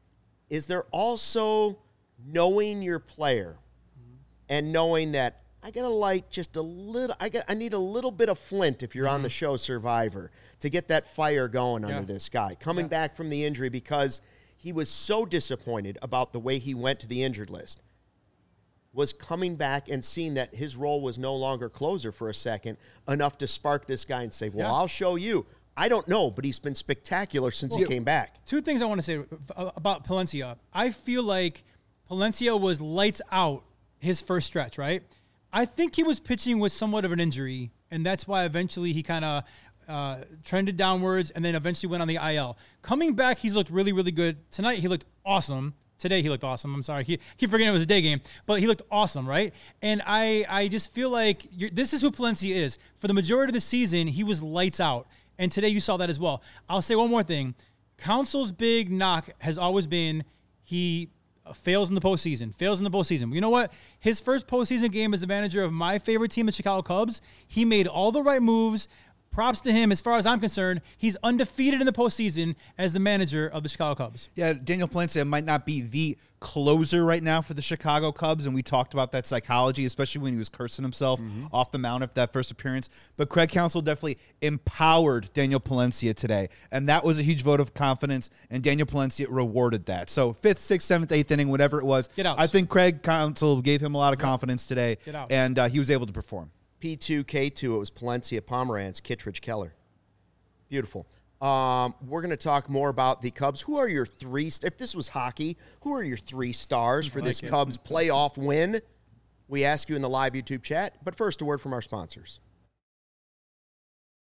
[SPEAKER 1] is there also knowing your player and knowing that I got to light just a little. I need a little bit of flint if you're on the show Survivor to get that fire going under this guy coming back from the injury because he was so disappointed about the way he went to the injured list. Was coming back and seeing that his role was no longer closer for a second enough to spark this guy and say, "Well, I'll show you." I don't know, but he's been spectacular since he came back.
[SPEAKER 2] Two things I want to say about Palencia. I feel like Palencia was lights out his first stretch, right? I think he was pitching with somewhat of an injury, and that's why eventually he kind of trended downwards and then eventually went on the IL. Coming back, he's looked really, really good. Tonight, he looked awesome. Today, he looked awesome. I'm sorry. I keep forgetting it was a day game, but he looked awesome, right? And I just feel like this is who Palencia is. For the majority of the season, he was lights out, and today you saw that as well. I'll say one more thing. Counsell's big knock has always been he fails in the postseason. You know what? His first postseason game as the manager of my favorite team, the Chicago Cubs, he made all the right moves. Props to him. As far as I'm concerned, he's undefeated in the postseason as the manager of the Chicago Cubs.
[SPEAKER 3] Yeah, Daniel Palencia might not be the closer right now for the Chicago Cubs, and we talked about that psychology, especially when he was cursing himself off the mound after that first appearance. But Craig Counsell definitely empowered Daniel Palencia today, and that was a huge vote of confidence, and Daniel Palencia rewarded that. So 5th, 6th, 7th, 8th inning, whatever it was, I think Craig Counsell gave him a lot of confidence today, and he was able to perform.
[SPEAKER 1] P2, K2, it was Palencia, Pomerantz, Kittredge, Keller. Beautiful. We're going to talk more about the Cubs. Who are your three, if this was hockey, who are your 3 stars for this Cubs playoff win? We ask you in the live YouTube chat. But first, a word from our sponsors.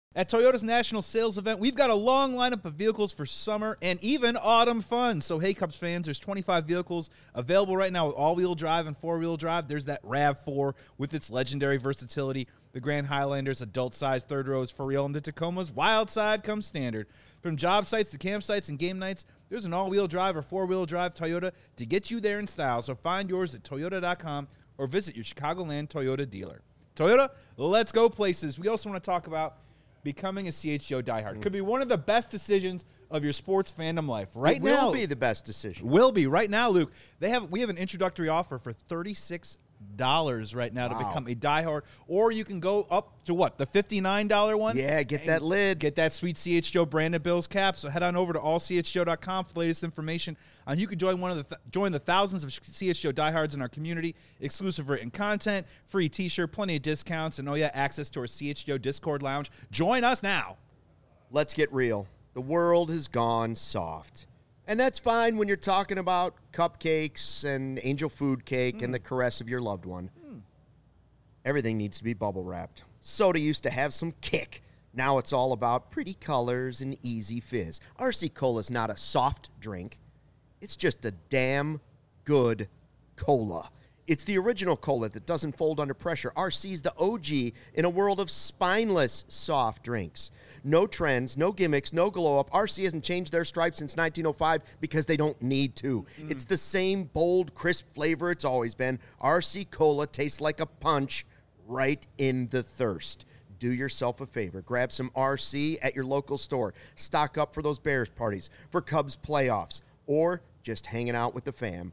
[SPEAKER 3] At Toyota's national sales event, we've got a long lineup of vehicles for summer and even autumn fun. So, hey, Cubs fans, there's 25 vehicles available right now with all-wheel drive and four-wheel drive. There's that RAV4 with its legendary versatility, the Grand Highlander's adult-sized third rows for real, and the Tacoma's wild side comes standard. From job sites to campsites and game nights, there's an all-wheel drive or four-wheel drive Toyota to get you there in style. So find yours at Toyota.com or visit your Chicagoland Toyota dealer. Toyota, let's go places. We also want to talk about becoming a CHGO diehard. Could be one of the best decisions of your sports fandom life. Right now,
[SPEAKER 1] will be the best decision.
[SPEAKER 3] Will be. Right now, Luke, we have an introductory offer for $36 right now to become a diehard, or you can go up to what, the $59 one?
[SPEAKER 1] Yeah, get that lid.
[SPEAKER 3] Get that sweet CHGO branded Bills cap. So head on over to allchgo.com for the latest information on you can join join the thousands of CHGO diehards in our community, exclusive written content, free t-shirt, plenty of discounts, and access to our CHGO Discord lounge. Join us now.
[SPEAKER 1] Let's get real. The world has gone soft. And that's fine when you're talking about cupcakes and angel food cake and the caress of your loved one. Everything needs to be bubble wrapped. Soda used to have some kick. Now it's all about pretty colors and easy fizz. RC Cola is not a soft drink. It's just a damn good cola. It's the original cola that doesn't fold under pressure. RC's the OG in a world of spineless soft drinks. No trends, no gimmicks, no glow-up. RC hasn't changed their stripe since 1905 because they don't need to. It's the same bold, crisp flavor it's always been. RC Cola tastes like a punch right in the thirst. Do yourself a favor. Grab some RC at your local store. Stock up for those Bears parties, for Cubs playoffs, or just hanging out with the fam.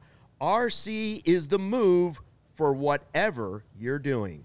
[SPEAKER 1] RC is the move for whatever you're doing.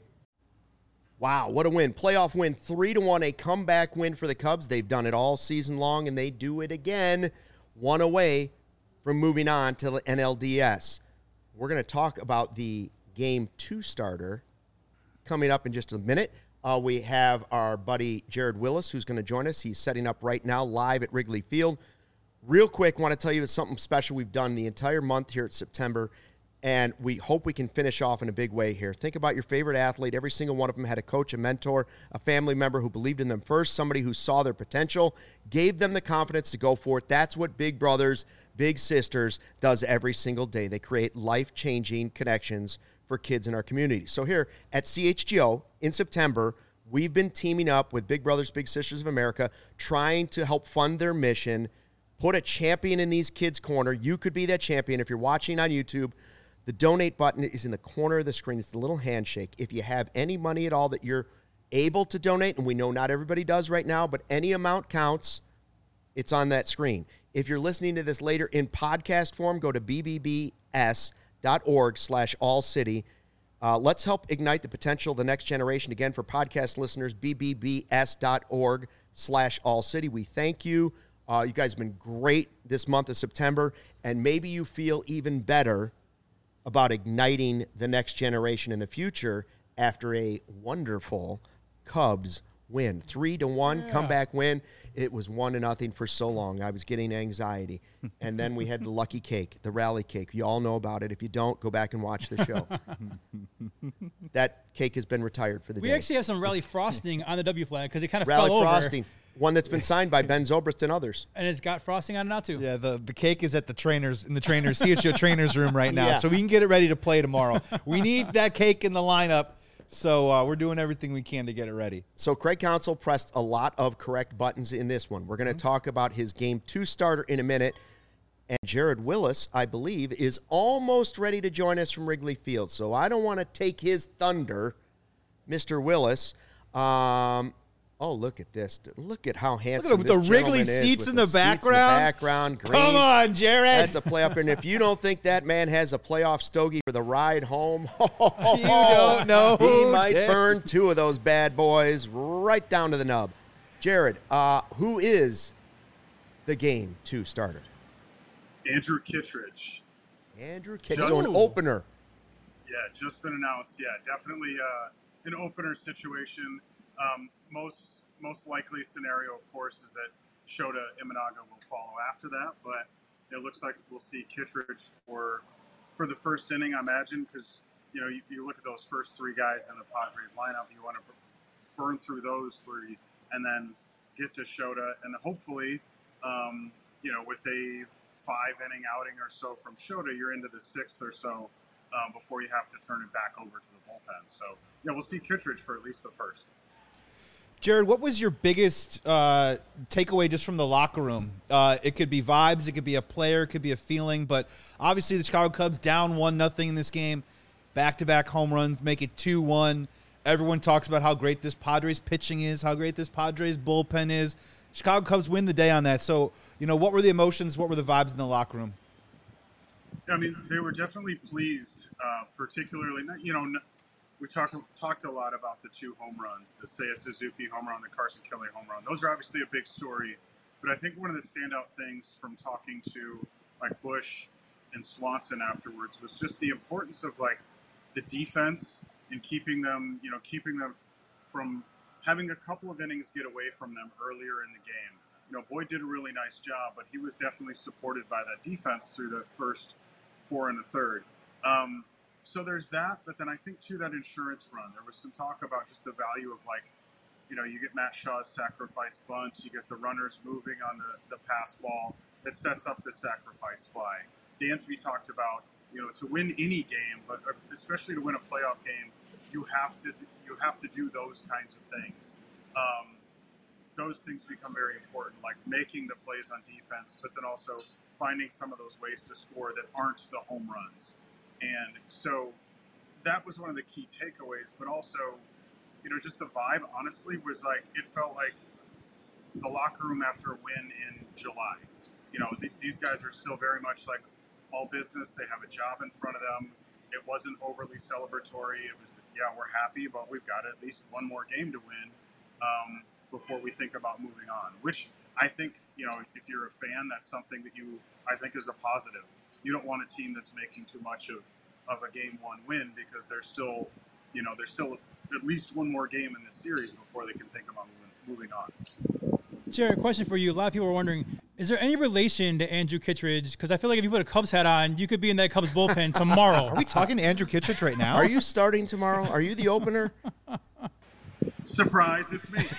[SPEAKER 1] Wow, what a win. Playoff win, 3-1, a comeback win for the Cubs. They've done it all season long, and they do it again, one away from moving on to the NLDS. We're going to talk about the Game 2 starter coming up in just a minute. We have our buddy Jared Willis, who's going to join us. He's setting up right now live at Wrigley Field. Real quick, want to tell you something special we've done the entire month here at September, and we hope we can finish off in a big way here. Think about your favorite athlete. Every single one of them had a coach, a mentor, a family member who believed in them first, somebody who saw their potential, gave them the confidence to go for it. That's what Big Brothers, Big Sisters does every single day. They create life-changing connections for kids in our community. So here at CHGO in September, we've been teaming up with Big Brothers, Big Sisters of America, trying to help fund their mission. Put a champion in these kids' corner. You could be that champion. If you're watching on YouTube, the donate button is in the corner of the screen. It's the little handshake. If you have any money at all that you're able to donate, and we know not everybody does right now, but any amount counts, it's on that screen. If you're listening to this later in podcast form, go to bbbs.org/allcity. Let's help ignite the potential of the next generation. Again, for podcast listeners, bbbs.org/allcity. We thank you. You guys have been great this month of September, and maybe you feel even better about igniting the next generation in the future after a wonderful Cubs win. 3-1 comeback win. It was 1-0 for so long. I was getting anxiety. And then we had the lucky cake, the rally cake. You all know about it. If you don't, go back and watch the show. That cake has been retired for the day.
[SPEAKER 2] We actually have some rally frosting on the W flag because it kind of
[SPEAKER 1] rally
[SPEAKER 2] fell over.
[SPEAKER 1] Rally frosting. One that's been signed by Ben Zobrist and others.
[SPEAKER 2] And it's got frosting on it now, too.
[SPEAKER 3] Yeah, the cake is at the CHGO trainers room right now, so we can get it ready to play tomorrow. We need that cake in the lineup, so we're doing everything we can to get it ready.
[SPEAKER 1] So Craig Counsell pressed a lot of correct buttons in this one. We're going to talk about his Game 2 starter in a minute, and Jared Willis, I believe, is almost ready to join us from Wrigley Field, so I don't want to take his thunder, Mr. Willis. Oh, look at this. Look at how handsome
[SPEAKER 3] this gentleman is. With the Wrigley seats in the background.
[SPEAKER 1] Green.
[SPEAKER 3] Come on, Jared.
[SPEAKER 1] That's a playoff. And if you don't think that man has a playoff stogie for the ride home,
[SPEAKER 3] you don't know.
[SPEAKER 1] He might burn two of those bad boys right down to the nub. Jared, who is the Game 2 starter?
[SPEAKER 4] Andrew Kittredge.
[SPEAKER 1] Andrew Kittredge. So an opener.
[SPEAKER 4] Yeah, just been announced. Yeah, definitely an opener situation. Most likely scenario, of course, is that Shota Imanaga will follow after that, but it looks like we'll see Kittredge for the first inning, I imagine, because you look at those first three guys in the Padres lineup, you want to burn through those three and then get to Shota, and hopefully, with a 5-inning outing or so from Shota, you're into the 6th or so before you have to turn it back over to the bullpen. So, we'll see Kittredge for at least the first.
[SPEAKER 3] Jared, what was your biggest takeaway just from the locker room? It could be vibes, it could be a player, it could be a feeling, but obviously the Chicago Cubs down 1-0 in this game, back-to-back home runs, make it 2-1. Everyone talks about how great this Padres pitching is, how great this Padres bullpen is. Chicago Cubs win the day on that. So, what were the emotions, what were the vibes in the locker room?
[SPEAKER 4] I mean, they were definitely pleased, particularly, we talked a lot about the 2 home runs, the Seiya Suzuki home run, the Carson Kelly home run. Those are obviously a big story, but I think one of the standout things from talking to Bush and Swanson afterwards was just the importance of the defense and keeping them from having a couple of innings get away from them earlier in the game. Boyd did a really nice job, but he was definitely supported by that defense through the first 4 and a third. So there's that, but then I think too that insurance run, there was some talk about just the value of you get Matt Shaw's sacrifice bunt, you get the runners moving on the pass ball that sets up the sacrifice fly. Dansby talked about, to win any game, but especially to win a playoff game, you have to do those kinds of things. Those things become very important, like making the plays on defense, but then also finding some of those ways to score that aren't the home runs. And so that was one of the key takeaways, but also, just the vibe, honestly, was it felt like the locker room after a win in July. These guys are still very much all business. They have a job in front of them. It wasn't overly celebratory. It was, we're happy, but we've got at least one more game to win before we think about moving on, which I think, if you're a fan, that's something that I think is a positive. You don't want a team that's making too much of a game 1 win because there's still at least one more game in this series before they can think about moving on.
[SPEAKER 2] Jared, question for you. A lot of people are wondering, is there any relation to Andrew Kittredge? Because I feel like if you put a Cubs hat on, you could be in that Cubs bullpen tomorrow.
[SPEAKER 3] Are we talking to Andrew Kittredge right now?
[SPEAKER 1] Are you starting tomorrow? Are you the opener?
[SPEAKER 4] Surprise, it's me.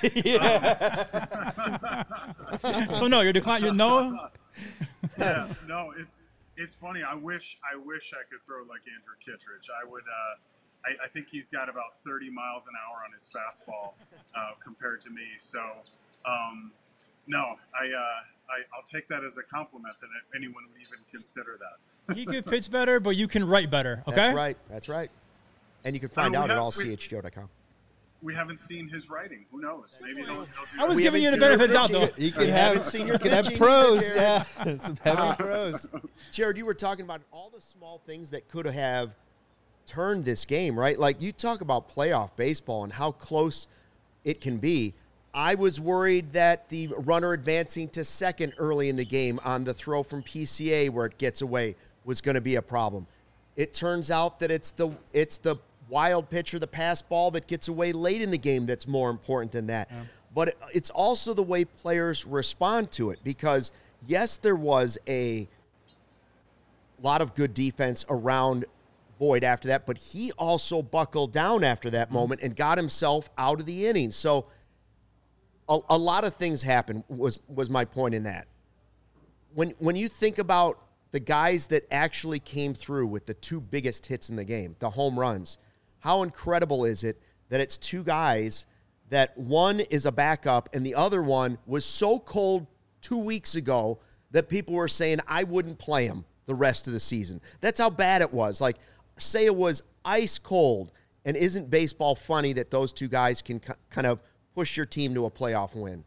[SPEAKER 2] So no, you're declining. No.
[SPEAKER 4] Yeah, no, it's funny. I wish I could throw like Andrew Kittredge. I would. I think he's got about 30 miles an hour on his fastball compared to me. So, no, I'll take that as a compliment that anyone would even consider that.
[SPEAKER 2] He could pitch better, but you can write better. Okay.
[SPEAKER 1] That's right. And you can find out at allchjo.com.
[SPEAKER 4] We haven't seen his writing. Who knows? Maybe he'll do
[SPEAKER 2] I was giving you the benefit of the doubt, though.
[SPEAKER 3] You can have pros. Yeah, some heavy pros.
[SPEAKER 1] Jared, you were talking about all the small things that could have turned this game, right? Like, you talk about playoff baseball and how close it can be. I was worried that the runner advancing to second early in the game on the throw from PCA where it gets away was going to be a problem. It turns out that it's the wild pitcher, the pass ball that gets away late in the game that's more important than that. Yeah. But it's also the way players respond to it because, yes, there was a lot of good defense around Boyd after that, but he also buckled down after that moment and got himself out of the inning. So a lot of things happened was my point in that. When you think about the guys that actually came through with the two biggest hits in the game, the home runs, how incredible is it that it's two guys that one is a backup and the other one was so cold 2 weeks ago that people were saying I wouldn't play him the rest of the season. That's how bad it was. Like, say it was ice cold, and isn't baseball funny that those two guys can kind of push your team to a playoff win?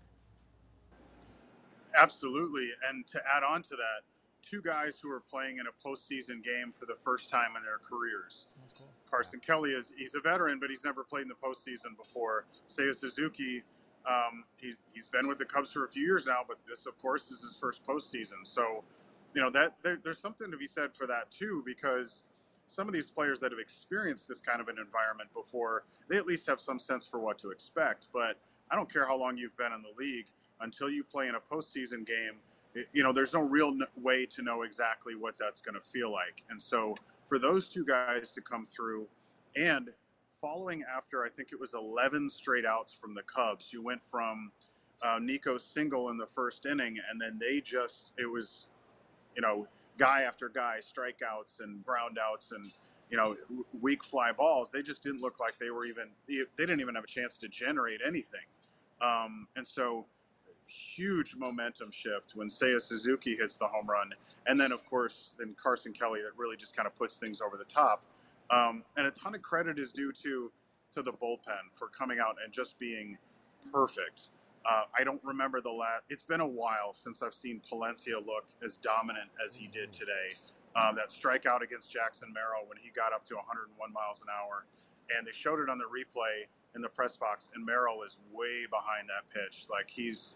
[SPEAKER 4] Absolutely. And to add on to that, two guys who are playing in a postseason game for the first time in their careers. Cool. Carson Kelly he's a veteran, but he's never played in the postseason before. Seiya Suzuki, he's been with the Cubs for a few years now, but this, of course, is his first postseason. So, that there's something to be said for that too, because some of these players that have experienced this kind of an environment before, they at least have some sense for what to expect. But I don't care how long you've been in the league, until you play in a postseason game, there's no real way to know exactly what that's going to feel like. And so for those two guys to come through, and following after, I think it was 11 straight outs from the Cubs. You went from Nico's single in the first inning, and then it was, guy after guy, strikeouts and ground outs and, weak fly balls. They just didn't look like they didn't even have a chance to generate anything. And so huge momentum shift when Seiya Suzuki hits the home run. And then, of course, Carson Kelly that really just kind of puts things over the top. And a ton of credit is due to the bullpen for coming out and just being perfect. I don't remember it's been a while since I've seen Palencia look as dominant as he did today. That strikeout against Jackson Merrill when he got up to 101 miles an hour. And they showed it on the replay in the press box, and Merrill is way behind that pitch. Like he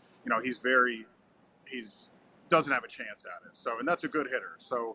[SPEAKER 4] doesn't have a chance at it. So, and that's a good hitter. So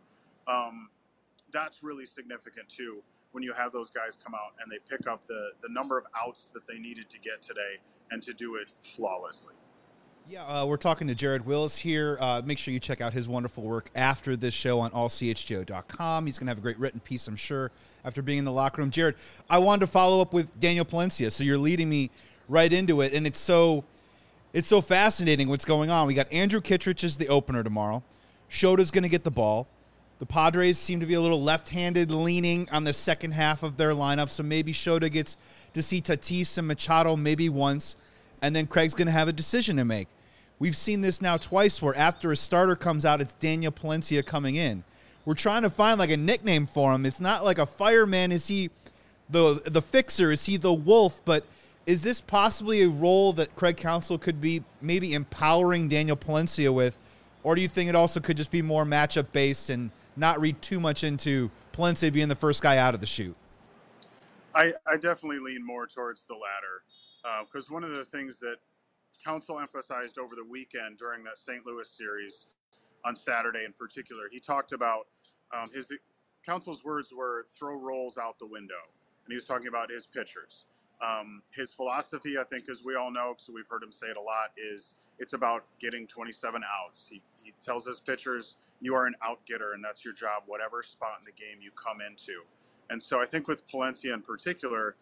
[SPEAKER 4] that's really significant too, when you have those guys come out and they pick up the number of outs that they needed to get today and to do it flawlessly.
[SPEAKER 3] Yeah, we're talking to Jared Willis here. Make sure you check out his wonderful work after this show on allchgo.com. He's going to have a great written piece, I'm sure, after being in the locker room. Jared, I wanted to follow up with Daniel Palencia, so you're leading me right into it, and it's so fascinating what's going on. We got Andrew Kittredge as the opener tomorrow. Shota's going to get the ball. The Padres seem to be a little left-handed leaning on the second half of their lineup, so maybe Shota gets to see Tatis and Machado maybe once, and then Craig's going to have a decision to make. We've seen this now twice where after a starter comes out, it's Daniel Palencia coming in. We're trying to find like a nickname for him. It's not like a fireman. Is he the fixer? Is he the wolf? But is this possibly a role that Craig Counsell could be maybe empowering Daniel Palencia with? Or do you think it also could just be more matchup based and not read too much into Palencia being the first guy out of the chute?
[SPEAKER 4] I definitely lean more towards the latter, because one of the things that Counsell emphasized over the weekend during that St. Louis series on Saturday in particular, he talked about Counsell's words were throw roles out the window, and he was talking about his pitchers. His philosophy, I think, as we all know, because we've heard him say it a lot, is it's about getting 27 outs. He tells his pitchers, you are an out-getter, and that's your job, whatever spot in the game you come into. And so I think with Palencia in particular,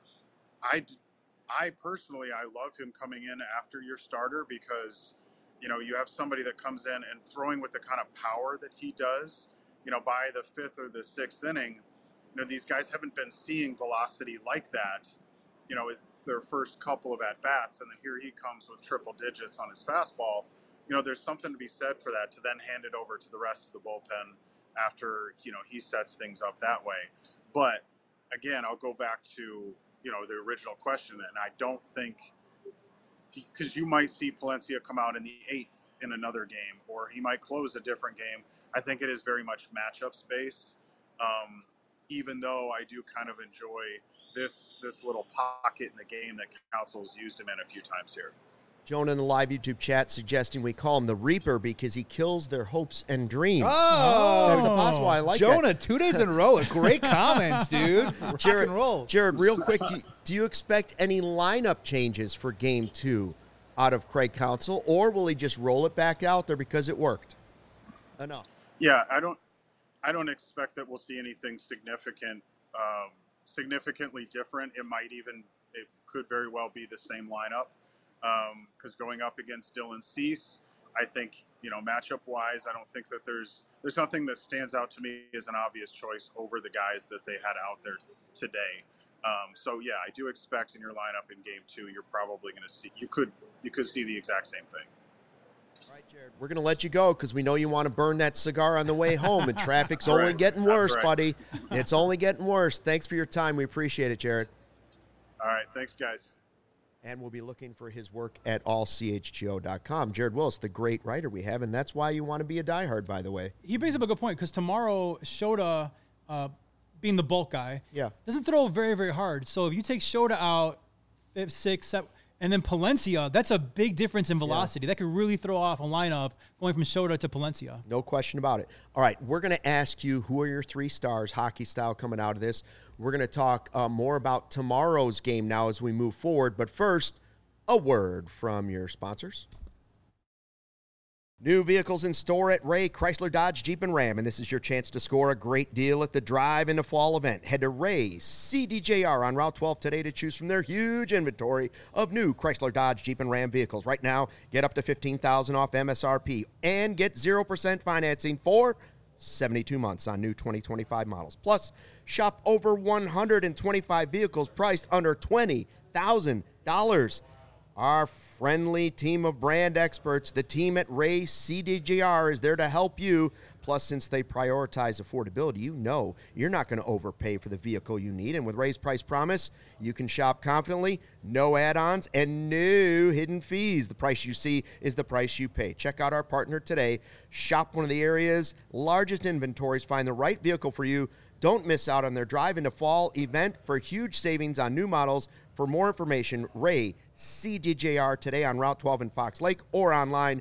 [SPEAKER 4] I personally, I love him coming in after your starter because, you have somebody that comes in and throwing with the kind of power that he does, by the fifth or the sixth inning, these guys haven't been seeing velocity like that, their first couple of at-bats. And then here he comes with triple digits on his fastball. There's something to be said for that, to then hand it over to the rest of the bullpen after, he sets things up that way. But again, I'll go back to, the original question, and I don't think, because you might see Palencia come out in the eighth in another game, or he might close a different game. I think it is very much matchups based, even though I do kind of enjoy this little pocket in the game that Counsell's used him in a few times here.
[SPEAKER 1] Jonah in the live YouTube chat suggesting we call him the Reaper because he kills their hopes and dreams.
[SPEAKER 3] Oh,
[SPEAKER 1] that's possible. I like
[SPEAKER 3] Jonah,
[SPEAKER 1] that.
[SPEAKER 3] 2 days in a row with great comments, dude.
[SPEAKER 1] Jared,
[SPEAKER 3] and roll.
[SPEAKER 1] Jared, real quick, do you expect any lineup changes for Game 2 out of Craig Counsell, or will he just roll it back out there because it worked? Enough.
[SPEAKER 4] Yeah, I don't expect that we'll see anything significantly different. It could very well be the same lineup. Because going up against Dylan Cease, I think, matchup-wise, I don't think that there's nothing that stands out to me as an obvious choice over the guys that they had out there today. So, yeah, I do expect in your lineup in Game 2, you're probably going to see – you could see the exact same thing.
[SPEAKER 1] All right, Jared, we're going to let you go because we know you want to burn that cigar on the way home, and traffic's only getting worse, buddy. It's only getting worse. Thanks for your time. We appreciate it, Jared.
[SPEAKER 4] All right, thanks, guys.
[SPEAKER 1] And we'll be looking for his work at allchgo.com. Jared Willis, the great writer we have, and that's why you want to be a diehard, by the way.
[SPEAKER 2] He brings up a good point because tomorrow, Shota, being the bulk guy, doesn't throw very, very hard. So if you take Shota out, 5th, 6th, 7th, and then Palencia, that's a big difference in velocity. That could really throw off a lineup going from Shota to Palencia.
[SPEAKER 1] No question about it. All right, we're going to ask you who are your 3 stars, hockey style, coming out of this. We're going to talk more about tomorrow's game now as we move forward. But first, a word from your sponsors. New vehicles in store at Ray Chrysler Dodge Jeep and Ram, and this is your chance to score a great deal at the Drive in the Fall event. Head to Ray CDJR on Route 12 today to choose from their huge inventory of new Chrysler Dodge Jeep and Ram vehicles. Right now, get up to $15,000 off MSRP and get 0% financing for 72 months on new 2025 models. Plus, shop over 125 vehicles priced under $20,000. Our friendly team of brand experts, the team at Ray CDJR, is there to help you. Plus, since they prioritize affordability, you know you're not going to overpay for the vehicle you need. And with Ray's Price Promise, you can shop confidently, no add-ons, and no hidden fees. The price you see is the price you pay. Check out our partner today. Shop one of the area's largest inventories. Find the right vehicle for you. Don't miss out on their Drive into Fall event for huge savings on new models. For more information, Ray CDJR today on Route 12 in Fox Lake or online,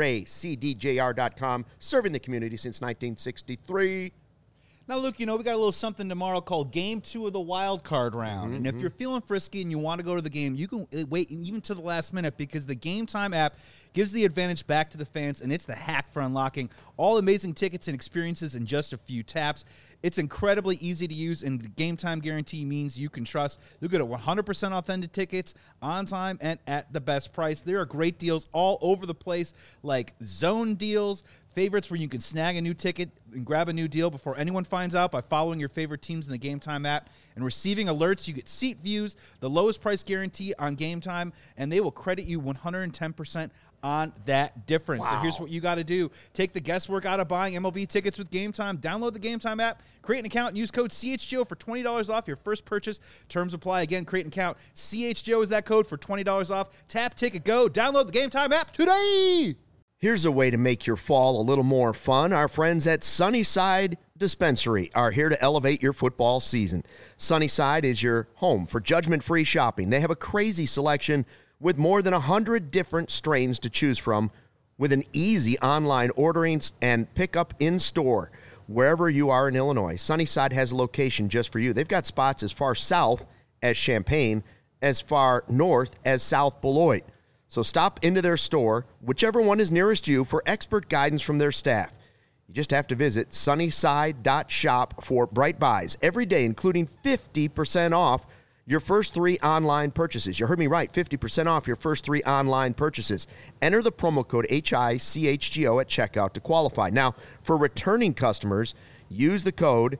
[SPEAKER 1] raycdjr.com, serving the community since 1963.
[SPEAKER 3] Now, Luke, we got a little something tomorrow called Game 2 of the Wild Card Round. And if you're feeling frisky and you want to go to the game, you can wait even to the last minute because the Game Time app gives the advantage back to the fans, and it's the hack for unlocking all amazing tickets and experiences in just a few taps. It's incredibly easy to use, and the Game Time guarantee means you can trust. You'll get 100% authentic tickets on time and at the best price. There are great deals all over the place, like zone deals, favorites where you can snag a new ticket and grab a new deal before anyone finds out by following your favorite teams in the Game Time app and receiving alerts. You get seat views, the lowest price guarantee on Game Time, and they will credit you 110% on that difference. Wow. So here's what you got to do. Take the guesswork out of buying MLB tickets with Game Time. Download the Game Time app, create an account, and use code CHGO for $20 off your first purchase. Terms apply. Again, create an account. CHGO is that code for $20 off. Tap, ticket, go. Download the Game Time app today.
[SPEAKER 1] Here's a way to make your fall a little more fun. Our friends at Sunnyside Dispensary are here to elevate your football season. Sunnyside is your home for judgment-free shopping. They have a crazy selection with more than 100 different strains to choose from, with an easy online ordering and pickup in store. Wherever you are in Illinois, Sunnyside has a location just for you. They've got spots as far south as Champaign, as far north as South Beloit. So stop into their store, whichever one is nearest you, for expert guidance from their staff. You just have to visit sunnyside.shop for bright buys every day, including 50% off your first 3 online purchases. You heard me right, 50% off your first 3 online purchases. Enter the promo code HICHGO at checkout to qualify. Now, for returning customers, use the code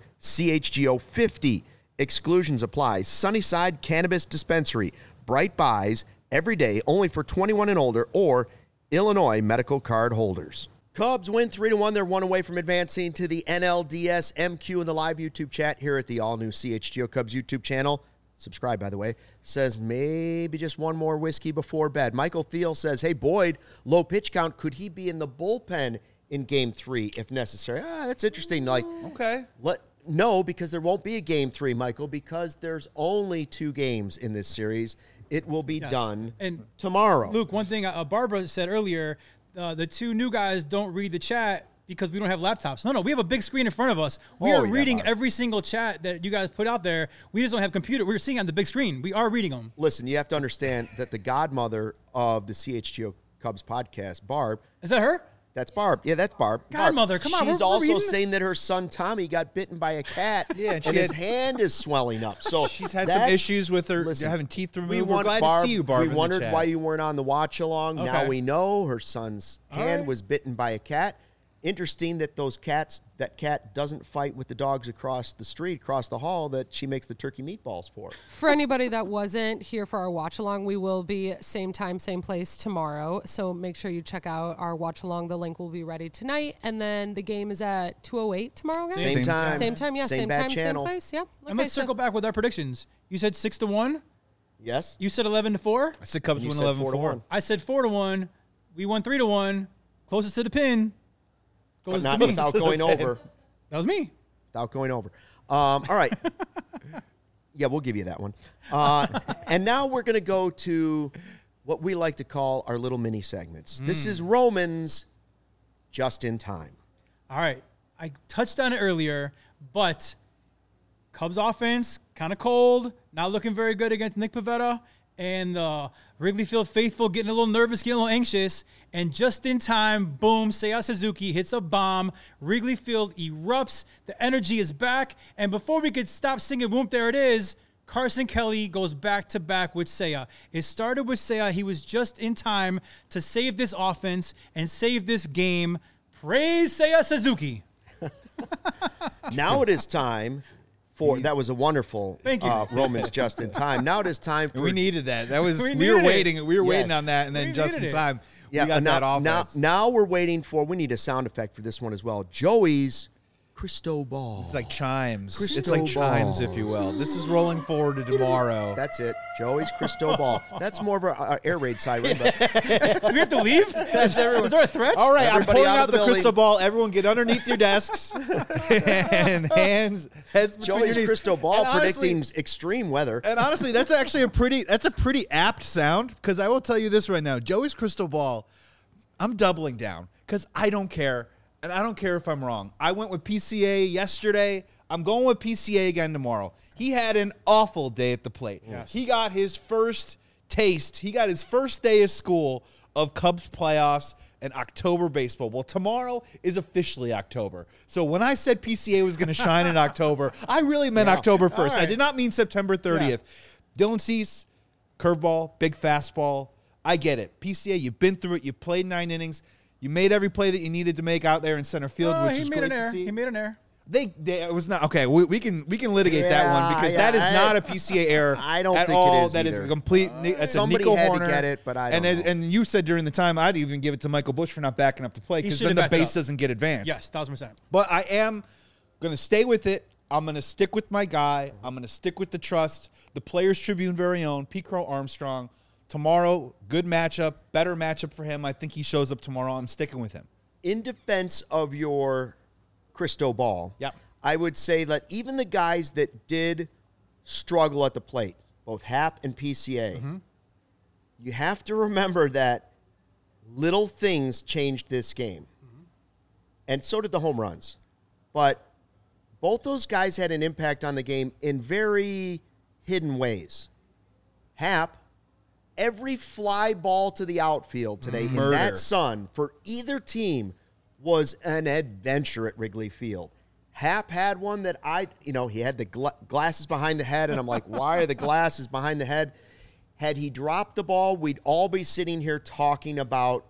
[SPEAKER 1] CHGO50. Exclusions apply. Sunnyside Cannabis Dispensary. Bright buys every day, only for 21 and older or Illinois medical card holders. Cubs win 3-1. They're one away from advancing to the NLDS MQ in the live YouTube chat here at the all-new CHGO Cubs YouTube channel. Subscribe, by the way. Says maybe just one more whiskey before bed. Michael Thiel says, hey, Boyd, low pitch count. Could he be in the bullpen in Game 3 if necessary? That's interesting.
[SPEAKER 3] Okay.
[SPEAKER 1] No, because there won't be a Game 3, Michael, because there's only 2 games in this series. It will be done tomorrow.
[SPEAKER 2] Luke, one thing Barbara said earlier, the 2 new guys don't read the chat because we don't have laptops. No, we have a big screen in front of us. We are reading every single chat that you guys put out there. We just don't have computer. We're seeing on the big screen. We are reading them.
[SPEAKER 1] Listen, you have to understand that the godmother of the CHGO Cubs podcast, Barb.
[SPEAKER 2] Is that her?
[SPEAKER 1] That's Barb. Yeah, that's Barb.
[SPEAKER 2] Godmother, come on.
[SPEAKER 1] She's also saying that her son Tommy got bitten by a cat, and his hand is swelling up. So
[SPEAKER 3] she's had some issues with her having teeth removed. We're glad to see you, Barb.
[SPEAKER 1] We wondered why you weren't on the watch along. Okay. Now we know her son's hand was bitten by a cat. Interesting that that cat doesn't fight with the dogs across the street, across the hall, that she makes the turkey meatballs for.
[SPEAKER 5] For anybody that wasn't here for our watch along, we will be same time, same place tomorrow. So make sure you check out our watch along. The link will be ready tonight. And then the game is at 2:08 tomorrow, guys?
[SPEAKER 1] Same time.
[SPEAKER 5] Same time, yeah. Same time,
[SPEAKER 1] channel.
[SPEAKER 5] same place. Yeah. Okay,
[SPEAKER 2] and let's circle back with our predictions. You said 6-1?
[SPEAKER 1] Yes.
[SPEAKER 2] You said 11-4?
[SPEAKER 3] I said Cubs win 11-4.
[SPEAKER 2] I said 4-1. We won 3-1. Closest to the pin.
[SPEAKER 1] But not without going over.
[SPEAKER 2] That was me.
[SPEAKER 1] Without going over. All right. Yeah, we'll give you that one. And now we're going to go to what we like to call our little mini segments. This is Roman's Just in Time.
[SPEAKER 2] All right. I touched on it earlier, but Cubs offense, kind of cold, not looking very good against Nick Pivetta. and the Wrigley Field faithful getting a little nervous, getting a little anxious, and just in time, boom, Seiya Suzuki hits a bomb. Wrigley Field erupts. The energy is back, and before we could stop singing, boom, there it is, Carson Kelly goes back-to-back with Seiya. It started with Seiya. He was just in time to save this offense and save this game. Praise Seiya Suzuki.
[SPEAKER 1] Now it is time for that was a wonderful Romans just in time. Now it is time for
[SPEAKER 3] we needed that. That was we were waiting. We were waiting on that, and then just in time, we got that offense.
[SPEAKER 1] Now we're waiting for. We need a sound effect for this one as well. Joey's Cristobal.
[SPEAKER 3] It's like chimes. It's like chimes, if you will. This is rolling forward to tomorrow.
[SPEAKER 1] That's it. Joey's Cristobal. That's more of an air raid siren. But
[SPEAKER 2] do we have to leave? Is there a threat?
[SPEAKER 3] All right, I'm pulling out the crystal ball. Everyone get underneath your desks and heads between
[SPEAKER 1] Joey's
[SPEAKER 3] your knees.
[SPEAKER 1] crystal ball predicting extreme weather.
[SPEAKER 3] And honestly, that's actually a pretty apt sound, because I will tell you this right now. Joey's crystal ball, I'm doubling down because I don't care. And I don't care if I'm wrong. I went with PCA yesterday. I'm going with PCA again tomorrow. He had an awful day at the plate.
[SPEAKER 2] Yes.
[SPEAKER 3] He got his first taste. He got his first day of school of Cubs playoffs and October baseball. Well, tomorrow is officially October. So when I said PCA was going to shine in October, I really meant October 1st. Right. I did not mean September 30th. Yeah. Dylan Cease, curveball, big fastball. I get it. PCA, you've been through it. You played 9 innings. You made every play that you needed to make out there in center field, which is great to see.
[SPEAKER 2] He made an error.
[SPEAKER 3] It was not okay. We can litigate that one, because that is not a PCA error.
[SPEAKER 1] I don't
[SPEAKER 3] at
[SPEAKER 1] think
[SPEAKER 3] all.
[SPEAKER 1] it is.
[SPEAKER 3] That
[SPEAKER 1] either.
[SPEAKER 3] is a complete.
[SPEAKER 1] Somebody
[SPEAKER 3] Nico
[SPEAKER 1] had
[SPEAKER 3] Horner,
[SPEAKER 1] to get it, but I don't know.
[SPEAKER 3] And you said during the time, I'd even give it to Michael Busch for not backing up the play, because then the base doesn't get advanced.
[SPEAKER 2] Yes, 1,000%.
[SPEAKER 3] But I am going to stay with it. I'm going to stick with my guy. I'm going to stick with the trust. The Players Tribune very own, Pete Crow Armstrong. Tomorrow, good matchup, better matchup for him. I think he shows up tomorrow. I'm sticking with him.
[SPEAKER 1] In defense of your Cristobal, I would say that even the guys that did struggle at the plate, both Happ and PCA, you have to remember that little things changed this game. And so did the home runs. But both those guys had an impact on the game in very hidden ways. Happ, every fly ball to the outfield today in that sun for either team was an adventure at Wrigley Field. Happ had one that he had the glasses behind the head, and I'm like, why are the glasses behind the head? Had he dropped the ball, we'd all be sitting here talking about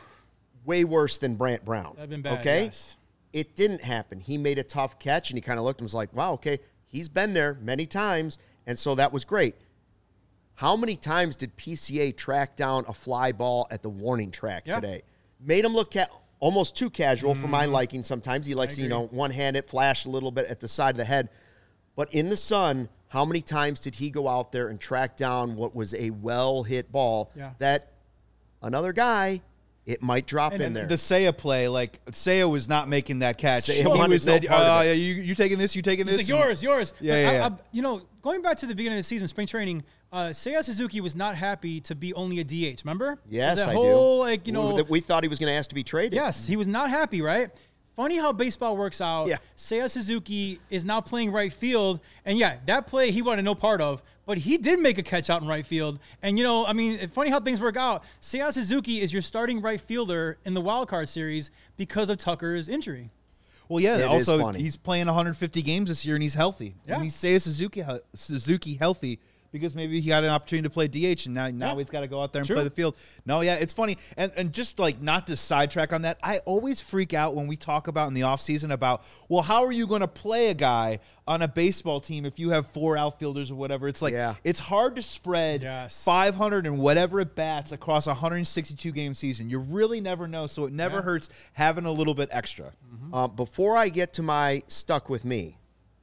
[SPEAKER 1] way worse than Brant Brown.
[SPEAKER 2] That'd been bad,
[SPEAKER 1] okay?
[SPEAKER 2] Yes.
[SPEAKER 1] It didn't happen. He made a tough catch, and he kind of looked and was like, wow, okay, he's been there many times, and so that was great. How many times did PCA track down a fly ball at the warning track today? Made him look almost too casual for my liking sometimes. He likes to, one-hand it, flash a little bit at the side of the head. But in the sun, how many times did he go out there and track down what was a well-hit ball that another guy, it might drop in there?
[SPEAKER 3] The Seiya play, Seiya was not making that catch. He
[SPEAKER 1] was
[SPEAKER 3] said, you taking this, you taking this?
[SPEAKER 2] He's like, yours.
[SPEAKER 3] Yeah.
[SPEAKER 2] Going back to the beginning of the season, spring training, Seiya Suzuki was not happy to be only a DH, remember?
[SPEAKER 1] Yes,
[SPEAKER 2] I do.
[SPEAKER 1] We thought he was going to ask to be traded.
[SPEAKER 2] Yes, he was not happy, right? Funny how baseball works out.
[SPEAKER 1] Yeah.
[SPEAKER 2] Seiya Suzuki is now playing right field. And that play he wanted no part of, but he did make a catch out in right field. And, funny how things work out. Seiya Suzuki is your starting right fielder in the wild card series because of Tucker's injury.
[SPEAKER 3] Well, yeah. Also, he's playing 150 games this year, and he's healthy.
[SPEAKER 2] Yeah.
[SPEAKER 3] And he's Seiya Suzuki healthy, because maybe he got an opportunity to play DH, and now he's got to go out there and play the field. No, it's funny. And just not to sidetrack on that, I always freak out when we talk about in the offseason about, well, how are you going to play a guy on a baseball team if you have 4 outfielders or whatever? It's it's hard to spread 500 and whatever at bats across a 162-game season. You really never know, so it never hurts having a little bit extra.
[SPEAKER 1] Before I get to my stuck with me,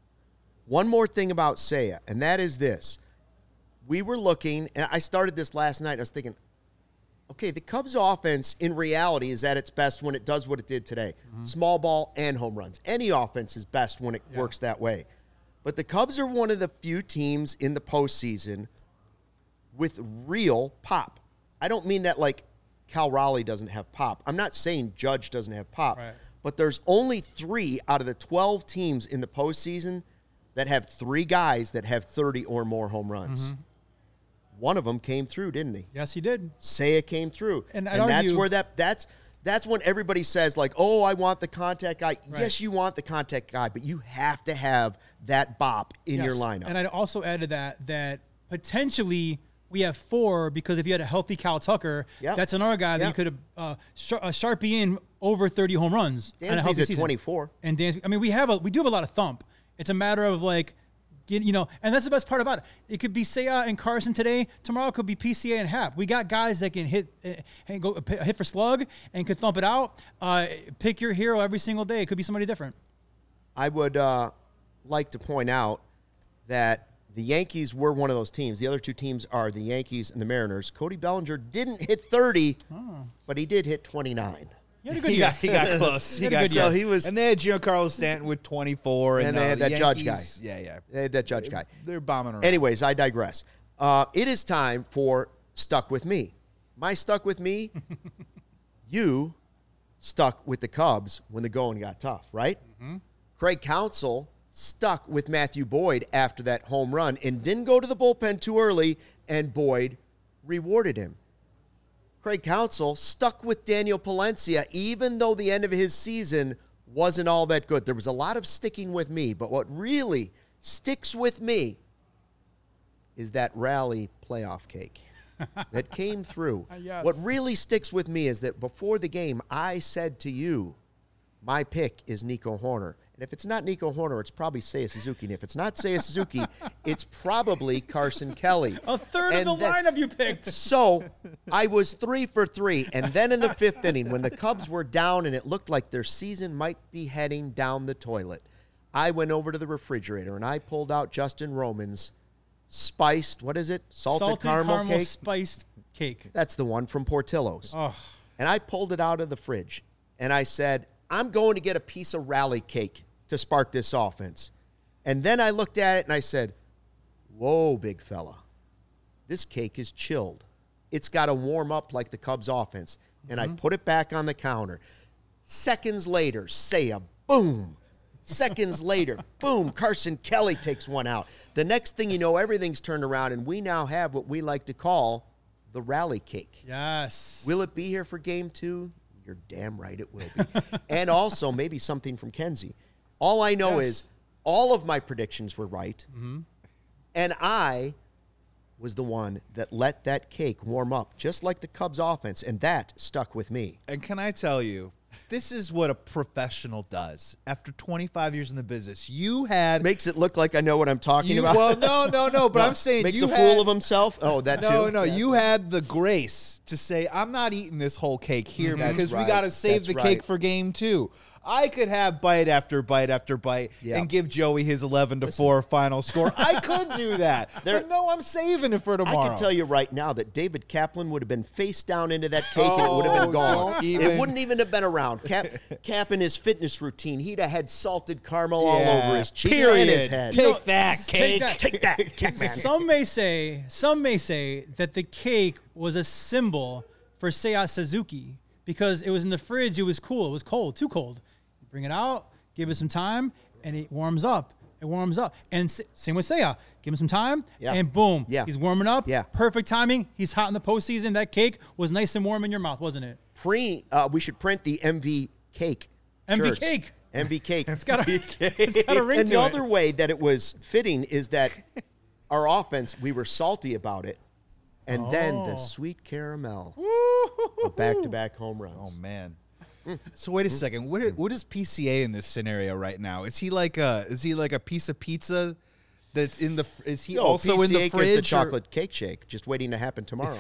[SPEAKER 1] one more thing about Seiya, and that is this. We were looking, and I started this last night. I was thinking, okay, the Cubs offense in reality is at its best when it does what it did today. Small ball and home runs. Any offense is best when it works that way. But the Cubs are one of the few teams in the postseason with real pop. I don't mean that like Cal Raleigh doesn't have pop. I'm not saying Judge doesn't have pop.
[SPEAKER 2] Right.
[SPEAKER 1] But there's only 3 out of the 12 teams in the postseason that have 3 guys that have 30 or more home runs. one of them came through, didn't he?
[SPEAKER 2] Yes, he did.
[SPEAKER 1] Seiya came through.
[SPEAKER 2] And
[SPEAKER 1] that's where that's when everybody says, like, oh, I want the contact guy.
[SPEAKER 2] Right.
[SPEAKER 1] Yes, you want the contact guy, but you have to have that bop in your lineup.
[SPEAKER 2] And I'd also add to that potentially we have 4 because if you had a healthy Cal Tucker, that's another guy that you could have Sharpie in over 30 home runs.
[SPEAKER 1] Dansby's at 24.
[SPEAKER 2] And Dansby, I mean, we do have a lot of thump. It's a matter of like, and that's the best part about it. It could be Seiya and Carson today. Tomorrow it could be PCA and Happ. We got guys that can hit for slug and could thump it out. Pick your hero every single day. It could be somebody different.
[SPEAKER 1] I would like to point out that the Yankees were one of those teams. The other 2 teams are the Yankees and the Mariners. Cody Bellinger didn't hit 30, but he did hit 29.
[SPEAKER 2] He had a good year.
[SPEAKER 3] He got close.
[SPEAKER 2] He got
[SPEAKER 1] so he was,
[SPEAKER 3] and they had Giancarlo Stanton with 24,
[SPEAKER 1] and they had that
[SPEAKER 3] Yankees,
[SPEAKER 1] Judge guy.
[SPEAKER 3] Yeah.
[SPEAKER 1] They had that Judge guy.
[SPEAKER 3] They're bombing around.
[SPEAKER 1] Anyways, I digress. It is time for Stuck With Me. My Stuck With Me, you stuck with the Cubs when the going got tough, right? Mm-hmm. Craig Counsell stuck with Matthew Boyd after that home run and didn't go to the bullpen too early, and Boyd rewarded him. Craig Counsell stuck with Daniel Palencia even though the end of his season wasn't all that good. There was a lot of sticking with me, but what really sticks with me is that rally playoff cake that came through.
[SPEAKER 2] Yes.
[SPEAKER 1] What really sticks with me is that before the game, I said to you, my pick is Nico Hoerner. And if it's not Nico Hoerner, it's probably Seiya Suzuki. And if it's not Seiya Suzuki, it's probably Carson Kelly.
[SPEAKER 2] A third of the lineup you picked.
[SPEAKER 1] So I was 3 for 3. And then in the 5th inning, when the Cubs were down and it looked like their season might be heading down the toilet, I went over to the refrigerator and I pulled out Justin Roman's spiced, what is it? Salted caramel cake?
[SPEAKER 2] Spiced cake.
[SPEAKER 1] That's the one from Portillo's.
[SPEAKER 2] Oh.
[SPEAKER 1] And I pulled it out of the fridge and I said, I'm going to get a piece of rally cake to spark this offense. And then I looked at it and I said, whoa, big fella, this cake is chilled. It's got to warm up like the Cubs offense. And I put it back on the counter. Seconds later, Seiya, boom. Seconds later, boom, Carson Kelly takes one out. The next thing you know, everything's turned around, and we now have what we like to call the rally cake.
[SPEAKER 2] Yes.
[SPEAKER 1] Will it be here for game 2? You're damn right it will be. And also maybe something from Kenzie. All I know is all of my predictions were right, and I was the one that let that cake warm up, just like the Cubs offense, and that stuck with me.
[SPEAKER 3] And can I tell you, this is what a professional does. After 25 years in the business, you had...
[SPEAKER 1] Makes it look like I know what I'm talking about.
[SPEAKER 3] Well, no, but I'm saying
[SPEAKER 1] Makes
[SPEAKER 3] you
[SPEAKER 1] a fool of himself? Oh, that too?
[SPEAKER 3] No, you had the grace to say, I'm not eating this whole cake here because we got to save the cake for game 2. I could have bite after bite after bite and give Joey his 11-4 final score. I could do that. But no, I'm saving it for tomorrow.
[SPEAKER 1] I can tell you right now that David Kaplan would have been face down into that cake and it would have been gone. It wouldn't even have been around. Cap in his fitness routine, he'd have had salted caramel all over his cheeks and his head.
[SPEAKER 3] Take that, cake.
[SPEAKER 1] Take that, Capman.
[SPEAKER 2] Some may say that the cake was a symbol for Seiya Suzuki because it was in the fridge. It was cool. It was cold, too cold. You bring it out, give it some time, and it warms up. It warms up. And same with Seiya. Give him some time, and boom, he's warming up.
[SPEAKER 1] Yeah.
[SPEAKER 2] Perfect timing. He's hot in the postseason. That cake was nice and warm in your mouth, wasn't it?
[SPEAKER 1] We should print the MV cake.
[SPEAKER 2] MV
[SPEAKER 1] shirts.
[SPEAKER 2] cake.
[SPEAKER 1] MV cake.
[SPEAKER 2] It's got a ring to it.
[SPEAKER 1] Another way that it was fitting is that our offense, we were salty about it, and then the sweet caramel of back-to-back home runs.
[SPEAKER 3] Oh, man. So wait a second. What is PCA in this scenario right now? Is he like a piece of pizza that's in the? Is he also
[SPEAKER 1] PCA
[SPEAKER 3] in the fridge?
[SPEAKER 1] Is the chocolate cake shake, just waiting to happen tomorrow.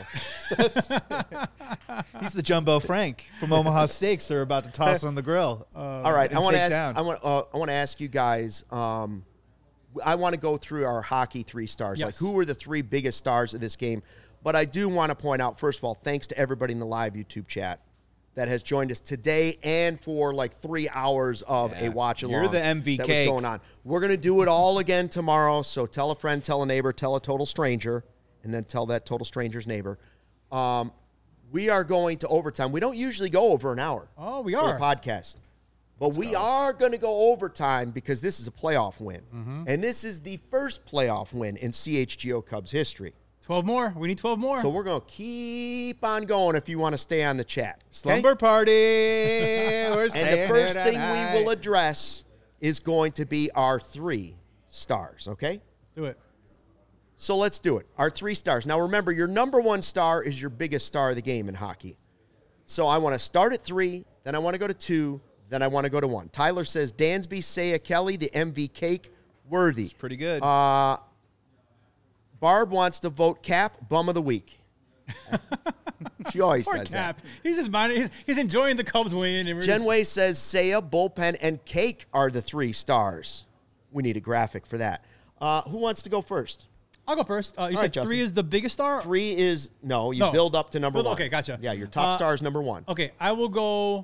[SPEAKER 3] He's the Jumbo Frank from Omaha Steaks. They're about to toss on the grill.
[SPEAKER 1] All right, I want to ask you guys. I want to go through our hockey 3 stars.
[SPEAKER 2] Yes.
[SPEAKER 1] Like, who were the 3 biggest stars of this game? But I do want to point out, first of all, thanks to everybody in the live YouTube chat that has joined us today and for like 3 hours of a watch along.
[SPEAKER 3] You're the MV
[SPEAKER 1] that
[SPEAKER 3] cake.
[SPEAKER 1] was going on. We're going to do it all again tomorrow. So tell a friend, tell a neighbor, tell a total stranger, and then tell that total stranger's neighbor. We are going to overtime. We don't usually go over an hour.
[SPEAKER 2] Oh, we
[SPEAKER 1] for
[SPEAKER 2] are.
[SPEAKER 1] the podcast. But we are going to go overtime because this is a playoff win. And this is the first playoff win in CHGO Cubs history.
[SPEAKER 2] 12 more. We need 12 more.
[SPEAKER 1] So we're going to keep on going if you want to stay on the chat. Okay?
[SPEAKER 3] Slumber party. We're
[SPEAKER 1] And the first thing we will address is going to be our 3 stars, okay?
[SPEAKER 2] Let's do it.
[SPEAKER 1] So let's do it. Our 3 stars. Now remember, your number 1 star is your biggest star of the game in hockey. So I want to start at 3, then I want to go to 2, then I want to go to 1. Tyler says Dansby, Seiya, Kelly, the MV cake, worthy.
[SPEAKER 3] It's pretty good.
[SPEAKER 1] Barb wants to vote Cap, bum of the week. She always
[SPEAKER 2] Poor
[SPEAKER 1] does
[SPEAKER 2] Cap.
[SPEAKER 1] that.
[SPEAKER 2] He's just minding. He's enjoying the Cubs win. And
[SPEAKER 1] Genway says Seiya, bullpen, and cake are the 3 stars. We need a graphic for that. Who wants to go first?
[SPEAKER 2] I'll go first. You
[SPEAKER 1] right,
[SPEAKER 2] said
[SPEAKER 1] Justin.
[SPEAKER 2] 3 is the biggest star?
[SPEAKER 1] 3 is, no, you
[SPEAKER 2] No.
[SPEAKER 1] build up to number 1.
[SPEAKER 2] Okay, gotcha.
[SPEAKER 1] Yeah, your top star is number 1.
[SPEAKER 2] Okay, I will go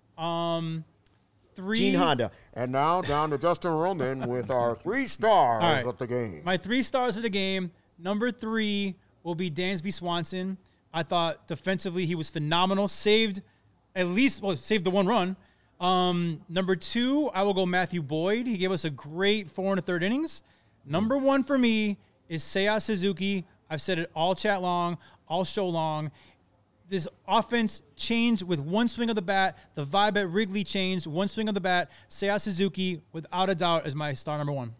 [SPEAKER 2] 3.
[SPEAKER 1] Gene Honda. And now down to Justin Roman with our 3 stars
[SPEAKER 2] All right.
[SPEAKER 1] of the game.
[SPEAKER 2] My 3 stars of the game. Number 3 will be Dansby Swanson. I thought defensively he was phenomenal. Saved the 1 run. Number 2, I will go Matthew Boyd. He gave us a great 4 1/3 innings. Number 1 for me is Seiya Suzuki. I've said it all chat long, all show long. This offense changed with 1 swing of the bat. The vibe at Wrigley changed. 1 swing of the bat. Seiya Suzuki, without a doubt, is my star number 1.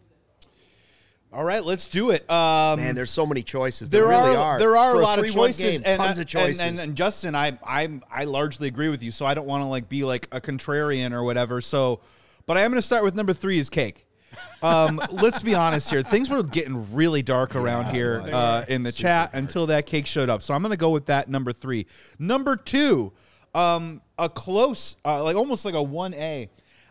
[SPEAKER 3] All right, let's do it.
[SPEAKER 1] Man, there's so many choices.
[SPEAKER 3] There
[SPEAKER 1] really are.
[SPEAKER 3] There are
[SPEAKER 1] For
[SPEAKER 3] a lot of
[SPEAKER 1] 3-1
[SPEAKER 3] choices,
[SPEAKER 1] game, tons of choices.
[SPEAKER 3] And Justin, I largely agree with you. So I don't want to be like a contrarian or whatever. So, but I am going to start with number 3 is cake. Let's be honest here. Things were getting really dark around here in the chat until that cake showed up. So I'm going to go with that number 3. Number 2, a close, almost like a 1A.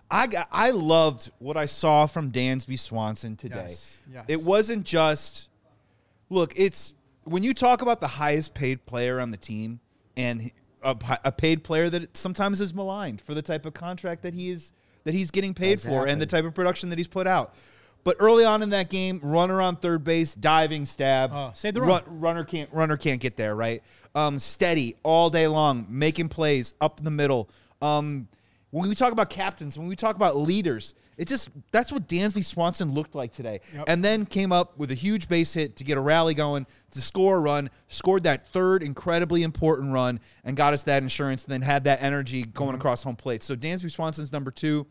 [SPEAKER 3] I loved what I saw from Dansby Swanson today.
[SPEAKER 2] Yes.
[SPEAKER 3] It wasn't just look. It's when you talk about the highest paid player on the team and a paid player that sometimes is maligned for the type of contract that he's getting paid for and the type of production that he's put out. But early on in that game, runner on third base, diving stab.
[SPEAKER 2] Save the run.
[SPEAKER 3] Runner can't get there, right? Steady all day long, making plays up in the middle. When we talk about captains, when we talk about leaders, that's what Dansby Swanson looked like today.
[SPEAKER 2] Yep.
[SPEAKER 3] And then came up with a huge base hit to get a rally going, to score a run, scored that 3rd incredibly important run, and got us that insurance, and then had that energy going across home plate. So Dansby Swanson's number 2.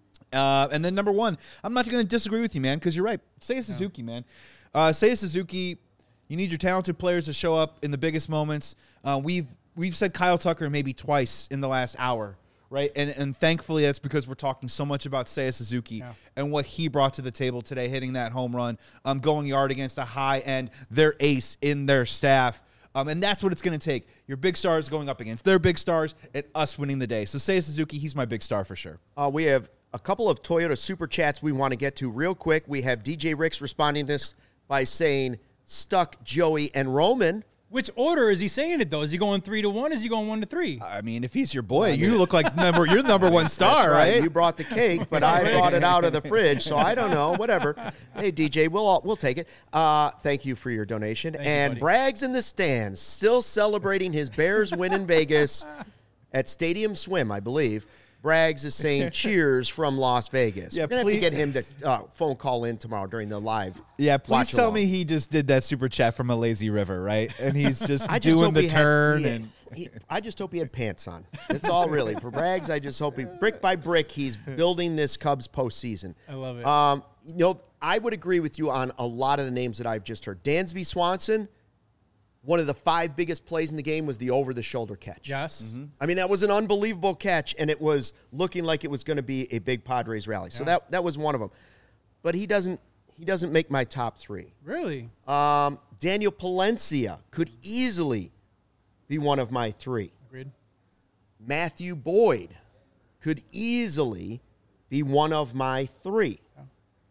[SPEAKER 3] And then number 1, I'm not going to disagree with you, man, because you're right. Seiya Suzuki, man. Seiya Suzuki, you need your talented players to show up in the biggest moments. We've said Kyle Tucker maybe twice in the last hour. Right, and thankfully that's because we're talking so much about Seiya Suzuki and what he brought to the table today, hitting that home run, going yard against a high end, their ace in their staff, and that's what it's going to take. Your big stars going up against their big stars, and us winning the day. So Seiya Suzuki, he's my big star for sure.
[SPEAKER 1] We have a couple of Toyota super chats we want to get to real quick. We have DJ Ricks responding to this by saying stuck Joey and Roman.
[SPEAKER 2] Which order is he saying it, though? Is he going 3 to 1? Is he going 1 to 3?
[SPEAKER 3] I mean, if he's your boy, you look like you're the number 1 star,
[SPEAKER 1] That's
[SPEAKER 3] right?
[SPEAKER 1] You brought the cake, but I brought it out of the fridge, so I don't know. Whatever. Hey, DJ, we'll take it. Thank you for your donation.
[SPEAKER 2] Thank you,
[SPEAKER 1] Bragg's in the stands, still celebrating his Bears win in Vegas at Stadium Swim, I believe. Braggs is saying cheers from Las Vegas.
[SPEAKER 3] Yeah,
[SPEAKER 1] We're going to have to get him to phone call in tomorrow during the live.
[SPEAKER 3] Yeah, please
[SPEAKER 1] watch
[SPEAKER 3] tell
[SPEAKER 1] along.
[SPEAKER 3] me he just did that super chat from a lazy river, right? And he's just doing the turn.
[SPEAKER 1] I just hope he had pants on. That's all really. For Braggs, I just hope brick by brick, he's building this Cubs postseason.
[SPEAKER 2] I love it.
[SPEAKER 1] I would agree with you on a lot of the names that I've just heard. Dansby Swanson, one of the 5 biggest plays in the game was the over-the-shoulder catch.
[SPEAKER 2] Yes.
[SPEAKER 3] Mm-hmm.
[SPEAKER 1] I mean, that was an unbelievable catch, and it was looking like it was going to be a big Padres rally. So that was one of them. But he doesn't make my top 3.
[SPEAKER 2] Really?
[SPEAKER 1] Daniel Palencia could easily be one of my 3.
[SPEAKER 2] Agreed.
[SPEAKER 1] Matthew Boyd could easily be one of my 3.
[SPEAKER 2] Yeah.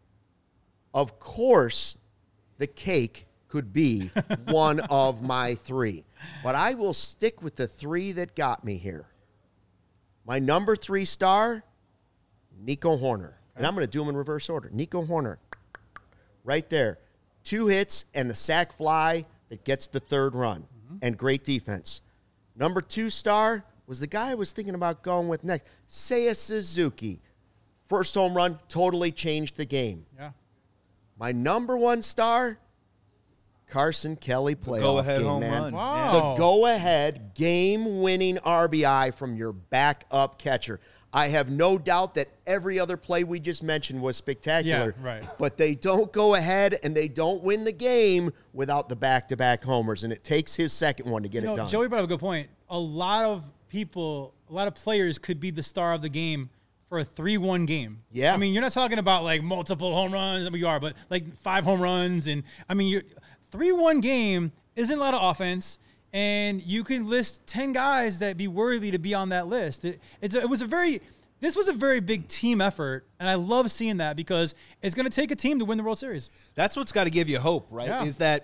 [SPEAKER 1] Of course, the cake could be one of my 3. But I will stick with the 3 that got me here. My number 3 star, Nico Horner. And I'm going to do them in reverse order. Nico Horner, right there. 2 hits and the sac fly that gets the 3rd run. And great defense. Number 2 star was the guy I was thinking about going with next. Seiya Suzuki. First home run, totally changed the game.
[SPEAKER 2] Yeah.
[SPEAKER 1] My number 1 star, Carson Kelly playoff
[SPEAKER 3] go-ahead
[SPEAKER 1] game,
[SPEAKER 3] home
[SPEAKER 1] man.
[SPEAKER 3] run.
[SPEAKER 2] Wow.
[SPEAKER 1] The go-ahead game-winning RBI from your backup catcher. I have no doubt that every other play we just mentioned was spectacular.
[SPEAKER 2] Yeah, right.
[SPEAKER 1] But they don't go ahead and they don't win the game without the back-to-back homers, and it takes his second one to get it done.
[SPEAKER 2] Joey brought up a good point. A lot of players could be the star of the game for a 3-1 game.
[SPEAKER 1] Yeah.
[SPEAKER 2] I mean, you're not talking about like multiple home runs, we are, but like 5 home runs. And I mean, 3-1 game isn't a lot of offense. And you can list 10 guys that be worthy to be on that list. This was a very big team effort, and I love seeing that because it's going to take a team to win the World Series.
[SPEAKER 3] That's what's got to give you hope, right?
[SPEAKER 2] Yeah.
[SPEAKER 3] Is that,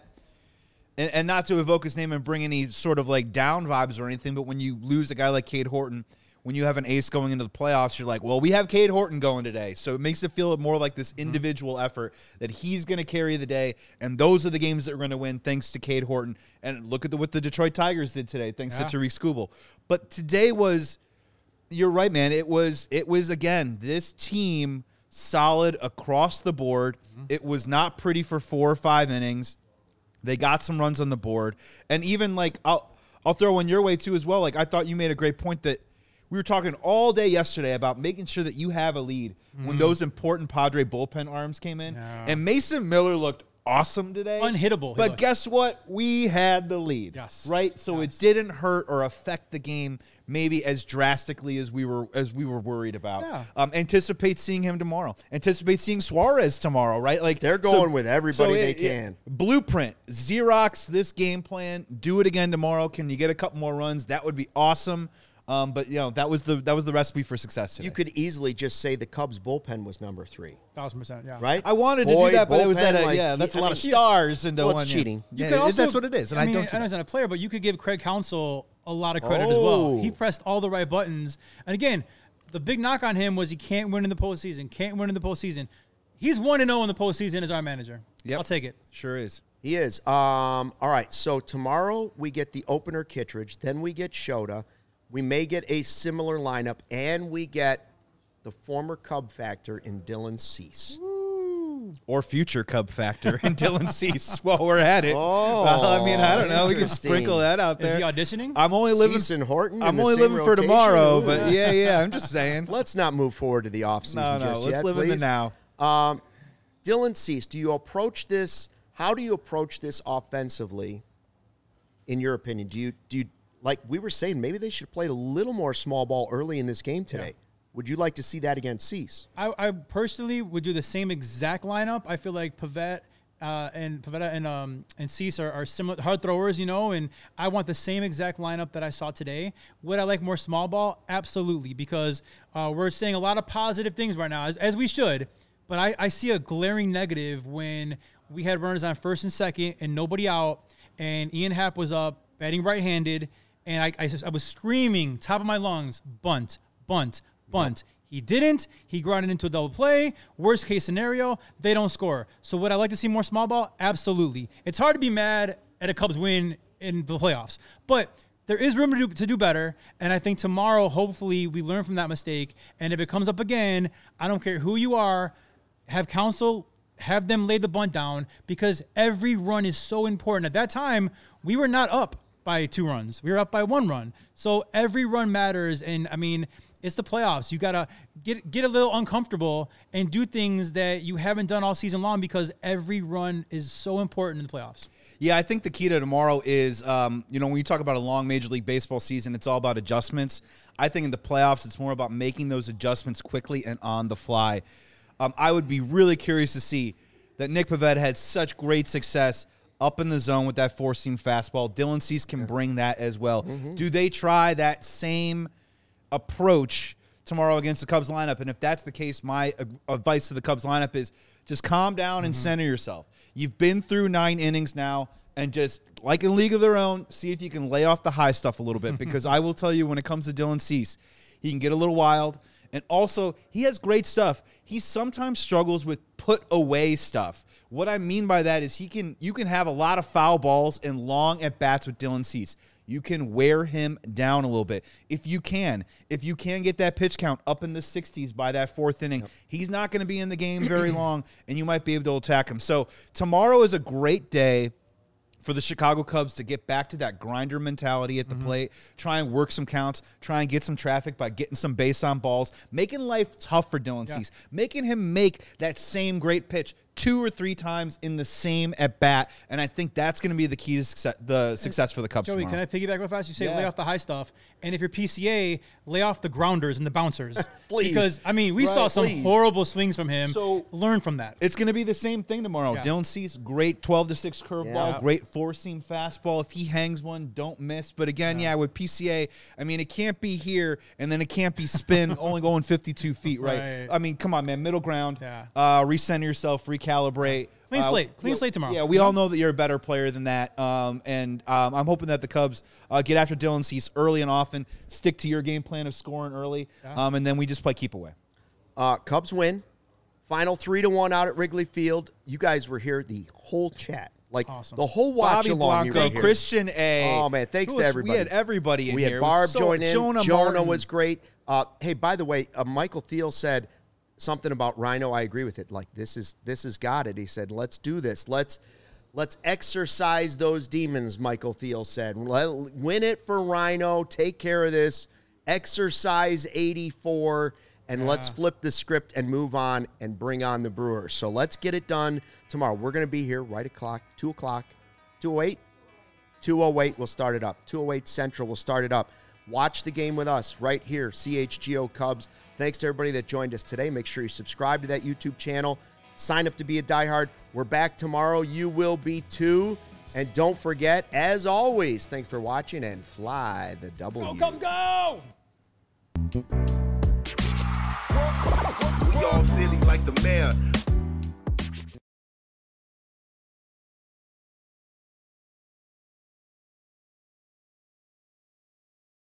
[SPEAKER 3] and not to evoke his name and bring any sort of like down vibes or anything, but when you lose a guy like Cade Horton, when you have an ace going into the playoffs, you're like, well, we have Cade Horton going today. So it makes it feel more like this individual effort that he's going to carry the day. And those are the games that we're going to win thanks to Cade Horton. And look at what the Detroit Tigers did today, thanks to Tariq Skubal. But today you're right, man. It was again, this team solid across the board. It was not pretty for 4 or 5 innings. They got some runs on the board. And even like, I'll throw one your way too as well. Like, I thought you made a great point that we were talking all day yesterday about making sure that you have a lead when those important Padre bullpen arms came in.
[SPEAKER 2] Yeah.
[SPEAKER 3] And Mason Miller looked awesome today.
[SPEAKER 2] Unhittable.
[SPEAKER 3] But guess what? We had the lead.
[SPEAKER 2] Yes.
[SPEAKER 3] Right? So it didn't hurt or affect the game maybe as drastically as we were worried about.
[SPEAKER 2] Yeah.
[SPEAKER 3] Anticipate seeing him tomorrow. Anticipate seeing Suarez tomorrow, right? Like
[SPEAKER 1] They're going with everybody they can.
[SPEAKER 3] Blueprint, Xerox this game plan, do it again tomorrow. Can you get a couple more runs? That would be awesome. But that was the recipe for success today.
[SPEAKER 1] You could easily just say the Cubs bullpen was number 3.
[SPEAKER 2] 1,000%, yeah.
[SPEAKER 1] Right?
[SPEAKER 3] I wanted to do that, but it was
[SPEAKER 1] bullpen,
[SPEAKER 3] that's a
[SPEAKER 1] I
[SPEAKER 3] lot
[SPEAKER 1] mean,
[SPEAKER 3] of stars into
[SPEAKER 1] well,
[SPEAKER 3] one.
[SPEAKER 1] it's cheating.
[SPEAKER 2] You could also,
[SPEAKER 3] that's what it is, and I don't.
[SPEAKER 2] I know he's not a player, but you could give Craig Counsell a lot of credit as well.
[SPEAKER 1] Oh.
[SPEAKER 2] He pressed all the right buttons, and again, the big knock on him was he can't win in the postseason. He's 1-0 in the postseason as our manager.
[SPEAKER 3] Yep.
[SPEAKER 2] I'll take it.
[SPEAKER 3] Sure is.
[SPEAKER 1] He is. All right, so tomorrow we get the opener Kittredge, then we get Shota. We may get a similar lineup, and we get the former Cub factor in Dylan Cease.
[SPEAKER 3] Or future Cub factor in Dylan Cease while we're at it.
[SPEAKER 1] Oh,
[SPEAKER 3] I mean, I don't know. We can
[SPEAKER 1] interesting.
[SPEAKER 3] sprinkle that out there.
[SPEAKER 2] Is he auditioning?
[SPEAKER 3] I'm only living.
[SPEAKER 1] Cease and Horton.
[SPEAKER 3] I'm
[SPEAKER 1] in the
[SPEAKER 3] only
[SPEAKER 1] same
[SPEAKER 3] living for
[SPEAKER 1] rotation?
[SPEAKER 3] tomorrow,
[SPEAKER 1] Ooh.
[SPEAKER 3] but yeah. I'm just saying.
[SPEAKER 1] Let's not move forward to the offseason
[SPEAKER 3] No,
[SPEAKER 1] just
[SPEAKER 3] let's
[SPEAKER 1] yet,
[SPEAKER 3] live in the
[SPEAKER 1] please.
[SPEAKER 3] now.
[SPEAKER 1] Dylan Cease, do you approach this? How do you approach this offensively? In your opinion, do you like we were saying? Maybe they should have played a little more small ball early in this game today.
[SPEAKER 2] Yeah.
[SPEAKER 1] Would you like to see that against Cease?
[SPEAKER 2] I personally would do the same exact lineup. I feel like Pivetta and Cease are similar hard throwers, and I want the same exact lineup that I saw today. Would I like more small ball? Absolutely, because we're saying a lot of positive things right now, as we should. But I see a glaring negative when we had runners on first and second and nobody out, and Ian Happ was up batting right-handed, and I was screaming top of my lungs, bunt, bunt, bunt. He didn't. He grounded into a double play. Worst case scenario, they don't score. So would I like to see more small ball? Absolutely. It's hard to be mad at a Cubs win in the playoffs, but there is room to do better, and I think tomorrow, hopefully, we learn from that mistake, and if it comes up again, I don't care who you are, have Counsell, have them lay the bunt down, because every run is so important. At that time, we were not up by 2 runs. We were up by 1 run. So every run matters, and, I mean, it's the playoffs. You got to get a little uncomfortable and do things that you haven't done all season long, because every run is so important in the playoffs.
[SPEAKER 3] Yeah, I think the key to tomorrow is, when you talk about a long Major League Baseball season, it's all about adjustments. I think in the playoffs, it's more about making those adjustments quickly and on the fly. I would be really curious to see that Nick Pivetta had such great success up in the zone with that 4-seam fastball. Dylan Cease can bring that as well. Mm-hmm. Do they try that same approach tomorrow against the Cubs lineup? And if that's the case, my advice to the Cubs lineup is just calm down and center yourself. You've been through 9 innings now, and just like in League of Their Own, see if you can lay off the high stuff a little bit, because I will tell you, when it comes to Dylan Cease, he can get a little wild. And also, he has great stuff. He sometimes struggles with put-away stuff. What I mean by that is you can have a lot of foul balls and long at-bats with Dylan Cease. You can wear him down a little bit. If you can get that pitch count up in the 60s by that 4th inning, he's not going to be in the game very long, and you might be able to attack him. So tomorrow is a great day for the Chicago Cubs to get back to that grinder mentality at the plate, try and work some counts, try and get some traffic by getting some base on balls, making life tough for Dylan Cease, making him make that same great pitch 2 or 3 times in the same at bat, and I think that's going to be the key to success for the Cubs.
[SPEAKER 2] Joey,
[SPEAKER 3] tomorrow.
[SPEAKER 2] can I piggyback real fast? You say lay off the high stuff, and if you're PCA, lay off the grounders and the bouncers.
[SPEAKER 1] Please.
[SPEAKER 2] Because I mean, we saw some horrible swings from him.
[SPEAKER 3] So
[SPEAKER 2] learn from that.
[SPEAKER 3] It's going to be the same thing tomorrow.
[SPEAKER 2] Yeah.
[SPEAKER 3] Dylan Cease, great 12-6 curveball,
[SPEAKER 1] Yeah.
[SPEAKER 3] great 4-seam fastball. If he hangs one, don't miss. But again, with PCA, I mean, it can't be here, and then it can't be spin, only going 52 feet, right? I mean, come on, man, middle ground.
[SPEAKER 2] Yeah.
[SPEAKER 3] Recenter yourself, recalibrate.
[SPEAKER 2] Clean slate tomorrow.
[SPEAKER 3] Yeah, we all know that you're a better player than that. And I'm hoping that the Cubs get after Dylan Cease early and often, stick to your game plan of scoring early, and then we just play keep away.
[SPEAKER 1] Cubs win. Final 3-1 out at Wrigley Field. You guys were here, the whole chat. Like,
[SPEAKER 2] awesome.
[SPEAKER 1] the whole watch
[SPEAKER 3] Bobby
[SPEAKER 1] along.
[SPEAKER 3] Blanco,
[SPEAKER 1] you were here.
[SPEAKER 3] Christian A.
[SPEAKER 1] Oh, man, thanks to everybody.
[SPEAKER 3] We had everybody in
[SPEAKER 1] we
[SPEAKER 3] here.
[SPEAKER 1] had
[SPEAKER 3] It
[SPEAKER 1] Barb
[SPEAKER 3] was
[SPEAKER 1] join in.
[SPEAKER 3] Jonah
[SPEAKER 1] Jonah
[SPEAKER 3] Martin.
[SPEAKER 1] was great. Hey, by the way, Michael Thiel said something about Rhino. I agree with it. Like, this has got it. He said, let's do this. Let's exercise those demons, Michael Thiel said. Win it for Rhino. Take care of this. Exercise 84. And let's flip the script and move on and bring on the Brewers. So let's get it done tomorrow. We're going to be here right at 2 o'clock, 2:08. 2:08, we'll start it up. 2:08 Central, we'll start it up. Watch the game with us right here, CHGO Cubs. Thanks to everybody that joined us today. Make sure you subscribe to that YouTube channel. Sign up to be a diehard. We're back tomorrow. You will be too. And don't forget, as always, thanks for watching and fly the W.
[SPEAKER 2] Go Cubs, go!
[SPEAKER 6] We all silly like the mayor.